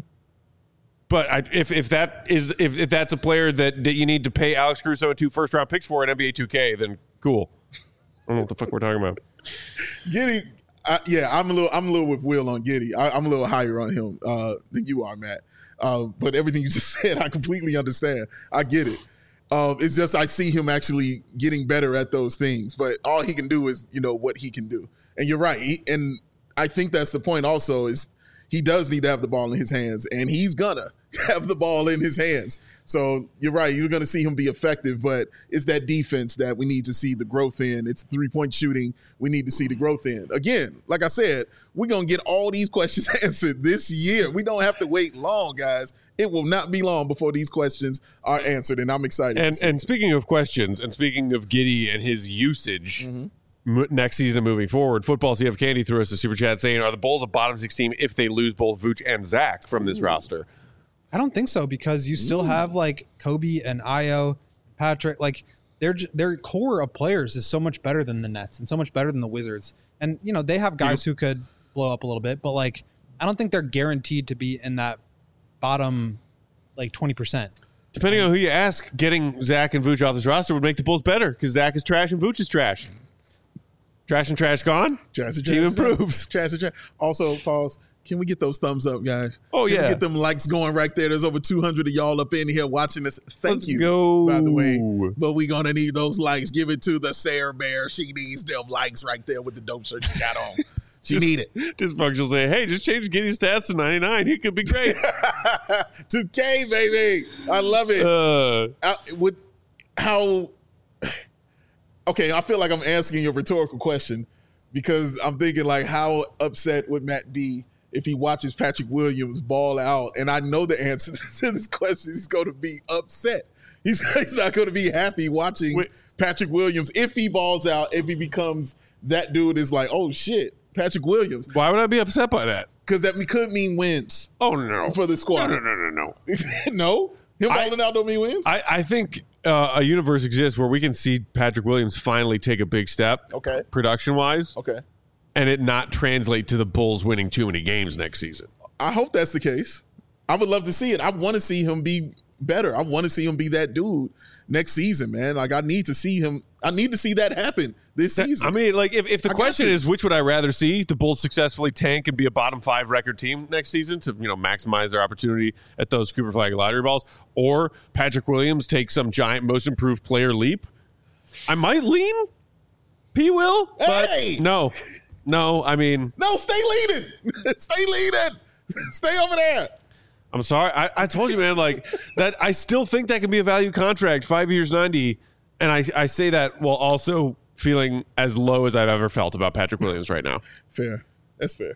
But if that's a player that you need to pay Alex Caruso and 2 first-round picks for in NBA 2K, then cool. I don't know what the fuck we're talking about. Giddey, I'm a little with Will on Giddey. I'm a little higher on him than you are, Matt. But everything you just said, I completely understand. I get it. It's just I see him actually getting better at those things. But all he can do is, you know, what he can do. And you're right. And I think that's the point also is he does need to have the ball in his hands. And he's gonna have the ball in his hands. So you're right. You're going to see him be effective, but it's that defense that we need to see the growth in. It's 3-point shooting we need to see the growth in. Again, like I said, we're going to get all these questions answered this year. We don't have to wait long, guys. It will not be long before these questions are answered, and I'm excited. And speaking of questions, and speaking of Giddey and his usage next season moving forward, Football CF Candy threw us a super chat saying, are the Bulls a bottom 6 team if they lose both Vooch and Zach from this roster? I don't think so because you still have like Kobe and Ayo, Patrick. Like their core of players is so much better than the Nets and so much better than the Wizards. And you know they have guys who could blow up a little bit, but like I don't think they're guaranteed to be in that bottom like 20%. Depending on who you ask, getting Zach and Vooch off this roster would make the Bulls better because Zach is trash and Vooch is trash. Trash and trash gone. Team improves. Trash and trash. Also, pause. Can we get those thumbs up, guys? Oh, Can yeah. we get them likes going right there? There's over 200 of y'all up in here watching this. Thank you, go. by the way. But we're going to need those likes. Give it to the Sarah Bear. She needs them likes right there with the dope shirt she got on. She need it. Dysfunctional say, hey, just change Giddey's stats to 99. He could be great. 2K, baby. I love it. Okay, I feel like I'm asking you a rhetorical question because I'm thinking like how upset would Matt be if he watches Patrick Williams ball out? And I know the answer to this question. He's going to be upset. He's not going to be happy watching Patrick Williams if he balls out, if he becomes that dude is like, oh, shit, Patrick Williams. Why would I be upset by that? Because that could mean wins. Oh, no. For the squad. No. No? Him balling out don't mean wins? I think a universe exists where we can see Patrick Williams finally take a big step production-wise. Okay. And it not translate to the Bulls winning too many games next season. I hope that's the case. I would love to see it. I want to see him be better. I want to see him be that dude next season, man. Like, I need to see him. I need to see that happen this season. I mean, like, if the question is which would I rather see, the Bulls successfully tank and be a bottom 5 record team next season to, you know, maximize their opportunity at those Cooper Flag lottery balls, or Patrick Williams take some giant most improved player leap, I might lean P. Will, but no, I mean... No, stay leading. Stay leading. Stay over there. I'm sorry. I told you, man, like, that I still think that can be a value contract, 5 years, 90, And I say that while also feeling as low as I've ever felt about Patrick Williams right now. Fair. That's fair.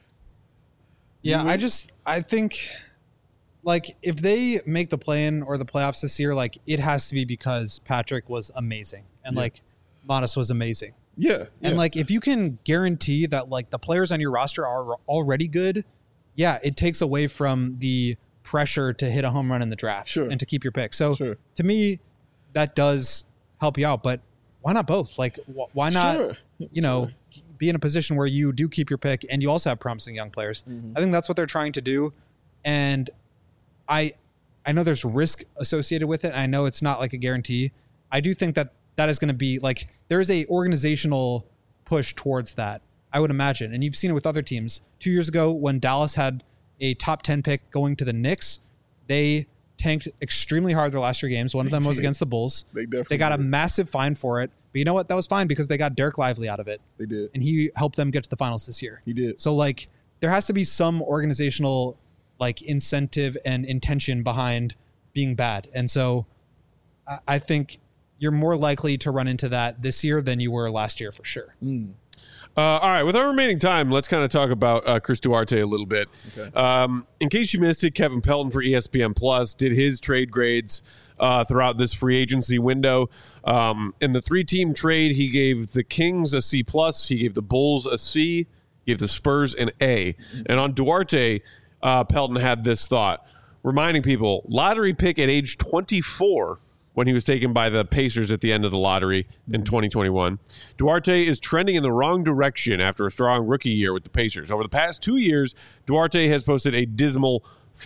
Yeah, I think like if they make the play-in or the playoffs this year, like it has to be because Patrick was amazing and like Modest was amazing. Yeah. And like if you can guarantee that like the players on your roster are already good, yeah, it takes away from the pressure to hit a home run in the draft and to keep your pick. So to me, that does help you out, but why not both? Like why not, be in a position where you do keep your pick and you also have promising young players. I think that's what they're trying to do. And I know there's risk associated with it. I know it's not like a guarantee. I do think that is going to be like, there's a organizational push towards that, I would imagine. And you've seen it with other teams. 2 years ago when Dallas had a top 10 pick going to the Knicks, they tanked extremely hard their last 3 games. One of them was against the Bulls. They got a massive fine for it. But you know what? That was fine because they got Derek Lively out of it. They did. And he helped them get to the finals this year. He did. So like there has to be some organizational like incentive and intention behind being bad. And so I think you're more likely to run into that this year than you were last year for sure. All right, with our remaining time, let's kind of talk about Chris Duarte a little bit. Okay. In case you missed it, Kevin Pelton for ESPN Plus did his trade grades throughout this free agency window. In the 3-team trade, he gave the Kings a C+, he gave the Bulls a C, he gave the Spurs an A. And on Duarte, Pelton had this thought, reminding people, lottery pick at age 24 when he was taken by the Pacers at the end of the lottery in 2021. Duarte is trending in the wrong direction after a strong rookie year with the Pacers. Over the past 2 years, Duarte has posted a dismal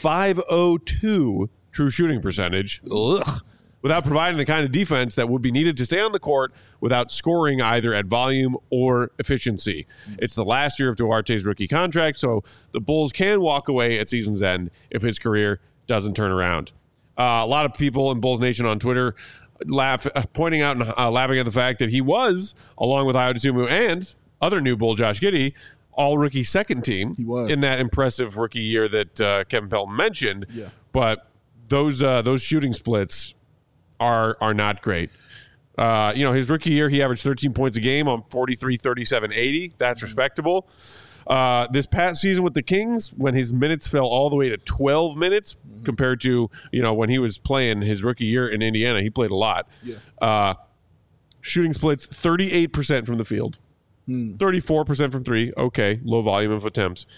.502 true shooting percentage, without providing the kind of defense that would be needed to stay on the court without scoring either at volume or efficiency. It's the last year of Duarte's rookie contract, so the Bulls can walk away at season's end if his career doesn't turn around. A lot of people in Bulls Nation on Twitter pointing out and laughing at the fact that he was, along with Ayo Dosunmu and other new Bull Josh Giddey, all rookie second team in that impressive rookie year that Kevin Pelton mentioned. Yeah. But those shooting splits are not great. His rookie year, he averaged 13 points a game on 43, 37, 80. That's respectable. This past season with the Kings, when his minutes fell all the way to 12 minutes compared to, when he was playing his rookie year in Indiana, he played a lot. Yeah. Shooting splits 38% from the field, 34% from three. Okay. Low volume of attempts.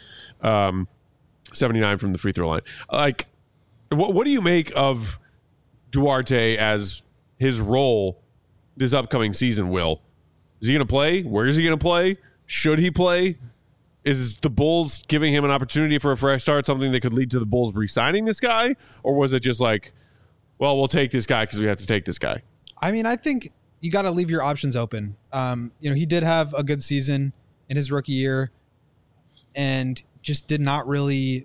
79 from the free throw line. Like, what do you make of Duarte as his role this upcoming season, Will? Is he going to play? Where is he going to play? Should he play? Is the Bulls giving him an opportunity for a fresh start something that could lead to the Bulls re-signing this guy? Or was it just like, well, we'll take this guy because we have to take this guy? I mean, I think you got to leave your options open. He did have a good season in his rookie year and just did not really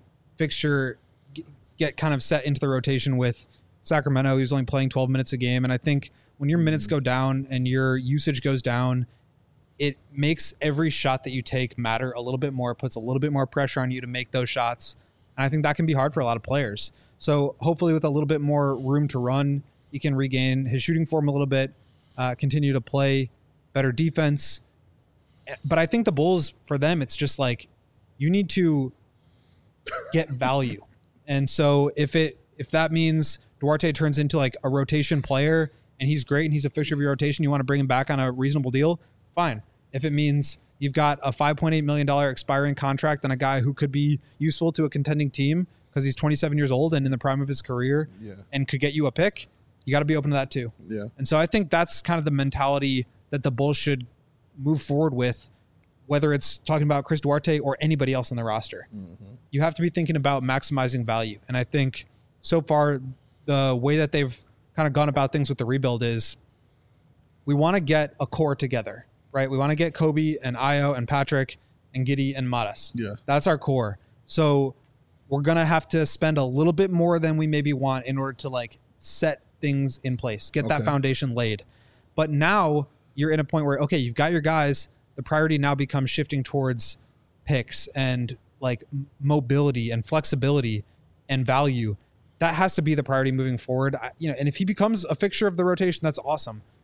get kind of set into the rotation with Sacramento. He was only playing 12 minutes a game. And I think when your minutes go down and your usage goes down, it makes every shot that you take matter a little bit more. It puts a little bit more pressure on you to make those shots. And I think that can be hard for a lot of players. So hopefully with a little bit more room to run, he can regain his shooting form a little bit, continue to play better defense. But I think the Bulls, for them, it's just like you need to get value. And so if that means Duarte turns into like a rotation player and he's great and he's a fixture of your rotation, you want to bring him back on a reasonable deal, fine. If it means you've got a $5.8 million expiring contract and a guy who could be useful to a contending team because he's 27 years old and in the prime of his career and could get you a pick, you got to be open to that too. Yeah. And so I think that's kind of the mentality that the Bulls should move forward with, whether it's talking about Chris Duarte or anybody else on the roster. You have to be thinking about maximizing value. And I think so far, the way that they've kind of gone about things with the rebuild is we want to get a core together, right? We want to get Kobe and Ayo and Patrick and Giddey and Modest. Yeah. That's our core. So we're going to have to spend a little bit more than we maybe want in order to like set things in place, get that foundation laid. But now you're in a point where, okay, you've got your guys. The priority now becomes shifting towards picks and like mobility and flexibility and value. That has to be the priority moving forward. And if he becomes a fixture of the rotation, that's awesome.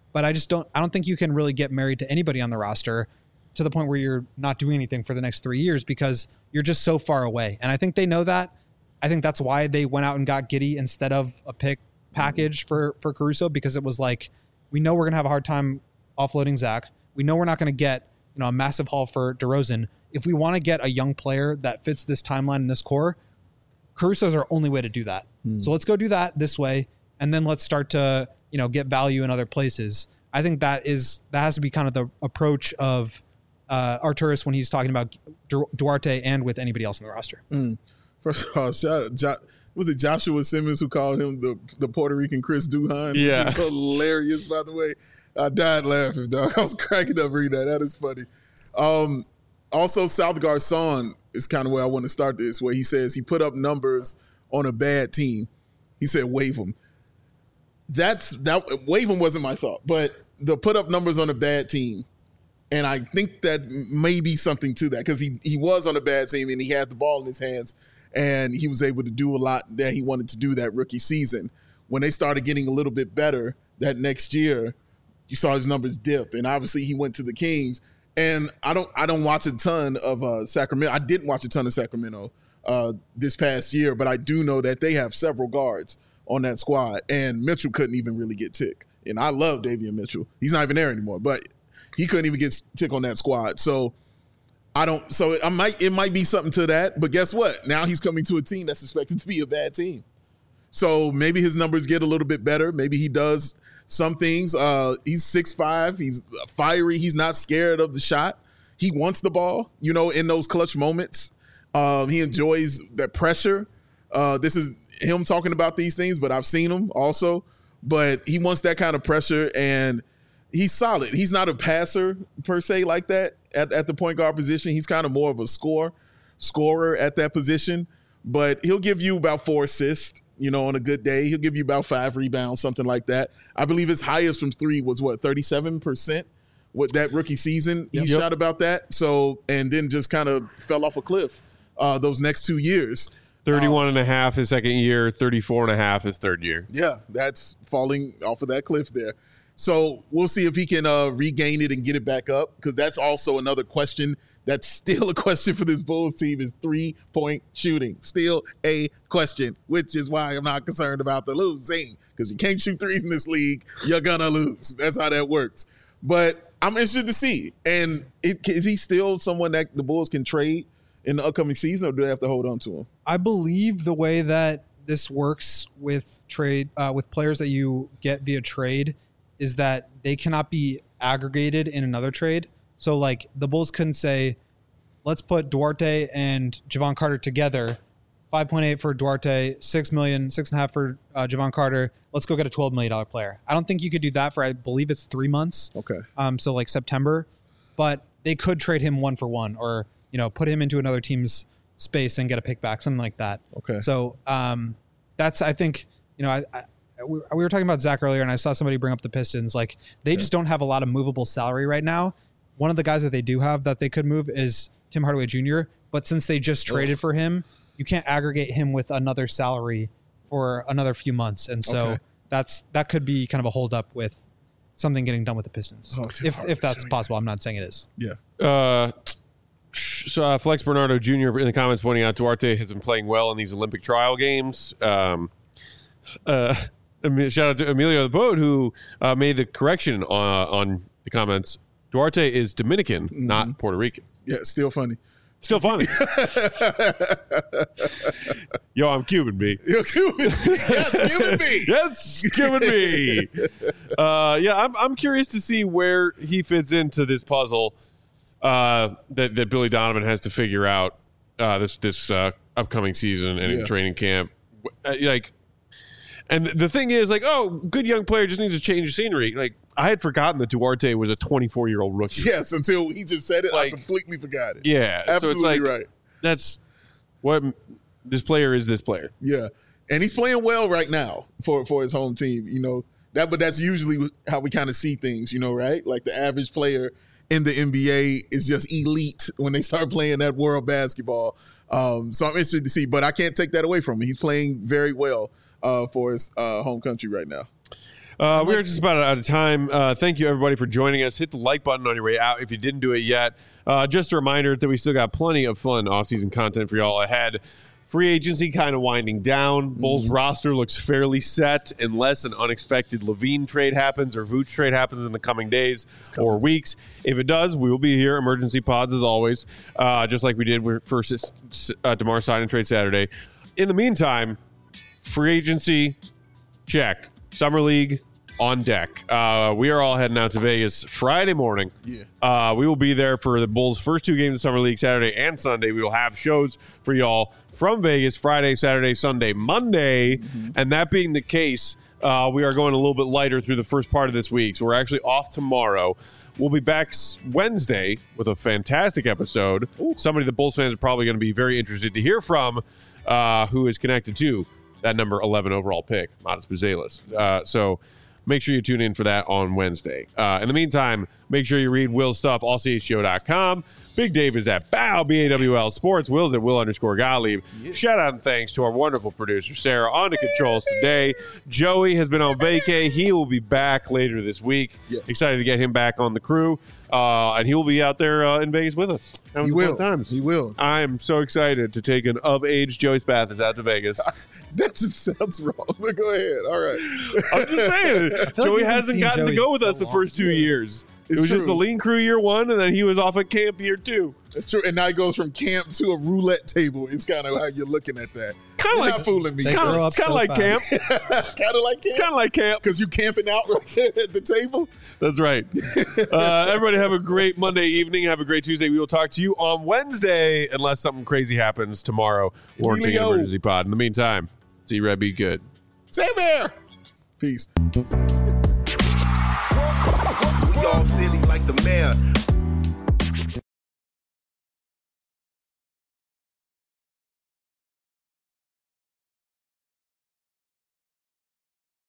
but I don't think you can really get married to anybody on the roster to the point where you're not doing anything for the next 3 years because you're just so far away. And I think they know that. I think that's why they went out and got Giddey instead of a pick package for Caruso, because it was like, we know we're going to have a hard time offloading Zach. We know we're not going to get, a massive haul for DeRozan. If we want to get a young player that fits this timeline and this core, Caruso's our only way to do that. So let's go do that this way. And then let's start to, get value in other places. I think that has to be kind of the approach of Arturas when he's talking about Duarte and with anybody else in the roster. First of all, was it Joshua Simmons who called him the Puerto Rican Chris Duhon? Yeah. Which is hilarious, by the way. I died laughing, dog. I was cracking up reading that. That is funny. Also, South Garcon is kind of where I want to start this, where he says he put up numbers on a bad team. He said, waive them. Waive them wasn't my thought, but the put up numbers on a bad team. And I think that may be something to that because he was on a bad team and he had the ball in his hands and he was able to do a lot that he wanted to do that rookie season. When they started getting a little bit better that next year, you saw his numbers dip. And obviously he went to the Kings. And I don't watch a ton of Sacramento. I didn't watch a ton of Sacramento this past year, but I do know that they have several guards on that squad. And Mitchell couldn't even really get tick. And I love Davion Mitchell. He's not even there anymore, but he couldn't even get tick on that squad. So it might be something to that. But guess what? Now he's coming to a team that's expected to be a bad team. So maybe his numbers get a little bit better. Maybe he does some things. He's 6'5". He's fiery. He's not scared of the shot. He wants the ball, in those clutch moments. He enjoys that pressure. This is him talking about these things, but I've seen him also. But he wants that kind of pressure, and he's solid. He's not a passer per se like that at the point guard position. He's kind of more of a scorer at that position. But he'll give you about 4 assists, on a good day. He'll give you about 5 rebounds, something like that. I believe his highest from 3 was 37% with that rookie season. He shot about that. So, and then just kind of fell off a cliff those next 2 years. 31.5 his second year, 34.5 his third year. Yeah, that's falling off of that cliff there. So we'll see if he can regain it and get it back up, because that's also another question. That's still a question for this Bulls team is 3-point shooting. Still a question, which is why I'm not concerned about the losing, because you can't shoot threes in this league. You're going to lose. That's how that works. But I'm interested to see. And is he still someone that the Bulls can trade in the upcoming season, or do they have to hold on to him? I believe the way that this works with trade, with players that you get via trade, is that they cannot be aggregated in another trade. So like the Bulls couldn't say, let's put Duarte and Javon Carter together, 5.8 for Duarte, 6 million, 6.5 for Javon Carter. Let's go get a $12 million player. I don't think you could do that for, I believe it's 3 months. Okay. So like September, but they could trade him 1 for 1, or, put him into another team's space and get a pick back, something like that. Okay. So that's, I think, we were talking about Zach earlier, and I saw somebody bring up the Pistons. Like, they just don't have a lot of movable salary right now. One of the guys that they do have that they could move is Tim Hardaway Jr., but since they just traded for him, you can't aggregate him with another salary for another few months. And so that could be kind of a holdup with something getting done with the Pistons. If that's possible. I'm not saying it is. Yeah. So Flex Bernardo Jr. in the comments pointing out Duarte has been playing well in these Olympic trial games. Shout out to Emilio the Boat, who made the correction on the comments. Duarte is Dominican, not Puerto Rican. Yeah, still funny. Still funny. Yo, I'm Cuban, B. You're Cuban. Yes, Cuban B. Yes, Cuban B. I'm curious to see where he fits into this puzzle that Billy Donovan has to figure out this upcoming season and in training camp. And the thing is, good young player just needs to change the scenery. Like, I had forgotten that Duarte was a 24-year-old rookie. Yes, until he just said it, I completely forgot it. Yeah. Absolutely so it's right. That's what this player is, this player. Yeah. And he's playing well right now for his home team, but that's usually how we kind of see things, right? Like the average player in the NBA is just elite when they start playing that world basketball. So I'm interested to see, but I can't take that away from him. He's playing very well for his home country right now. We are just about out of time. Thank you, everybody, for joining us. Hit the like button on your way out if you didn't do it yet. Just a reminder that we still got plenty of fun off-season content for y'all ahead. Free agency kind of winding down. Bulls roster looks fairly set unless an unexpected Levine trade happens or Vooch trade happens in the coming days or weeks. If it does, we will be here. Emergency pods as always, just like we did for DeMar sign and trade Saturday. In the meantime, free agency, check. Summer League, on deck. We are all heading out to Vegas Friday morning. Yeah. We will be there for the Bulls' first 2 games of Summer League, Saturday and Sunday. We will have shows for y'all from Vegas Friday, Saturday, Sunday, Monday. And that being the case, we are going a little bit lighter through the first part of this week. So we're actually off tomorrow. We'll be back Wednesday with a fantastic episode. Somebody the Bulls fans are probably going to be very interested to hear from, who is connected to that number 11 overall pick, Matas Buzelis. So make sure you tune in for that on Wednesday. In the meantime, make sure you read Will's stuff, allchgo.com. Big Dave is at BAW, BAWL Sports. Will's at Will_Gottlieb. Yes. Shout out and thanks to our wonderful producer, Sarah, on the controls today. Joey has been on vacay. He will be back later this week. Yes. Excited to get him back on the crew. And he will be out there in Vegas with us. He will. He will. I'm so excited to take an of-age Joey Spathis out to Vegas. That just sounds wrong. But go ahead. All right. I'm just saying. Joey hasn't gotten to go with us the first 2 years. It was just the lean crew year 1, and then he was off at camp year 2. That's true. And now he goes from camp to a roulette table. It's kind of how you're looking at that. You're not fooling me. It's kind of like camp. Kind of like camp? It's kind of like camp. Because you're camping out right there at the table? That's right. Everybody have a great Monday evening. Have a great Tuesday. We will talk to you on Wednesday unless something crazy happens tomorrow. Warranting an emergency pod. In the meantime, see Red, be good. Same here. Peace. We all silly like the mayor.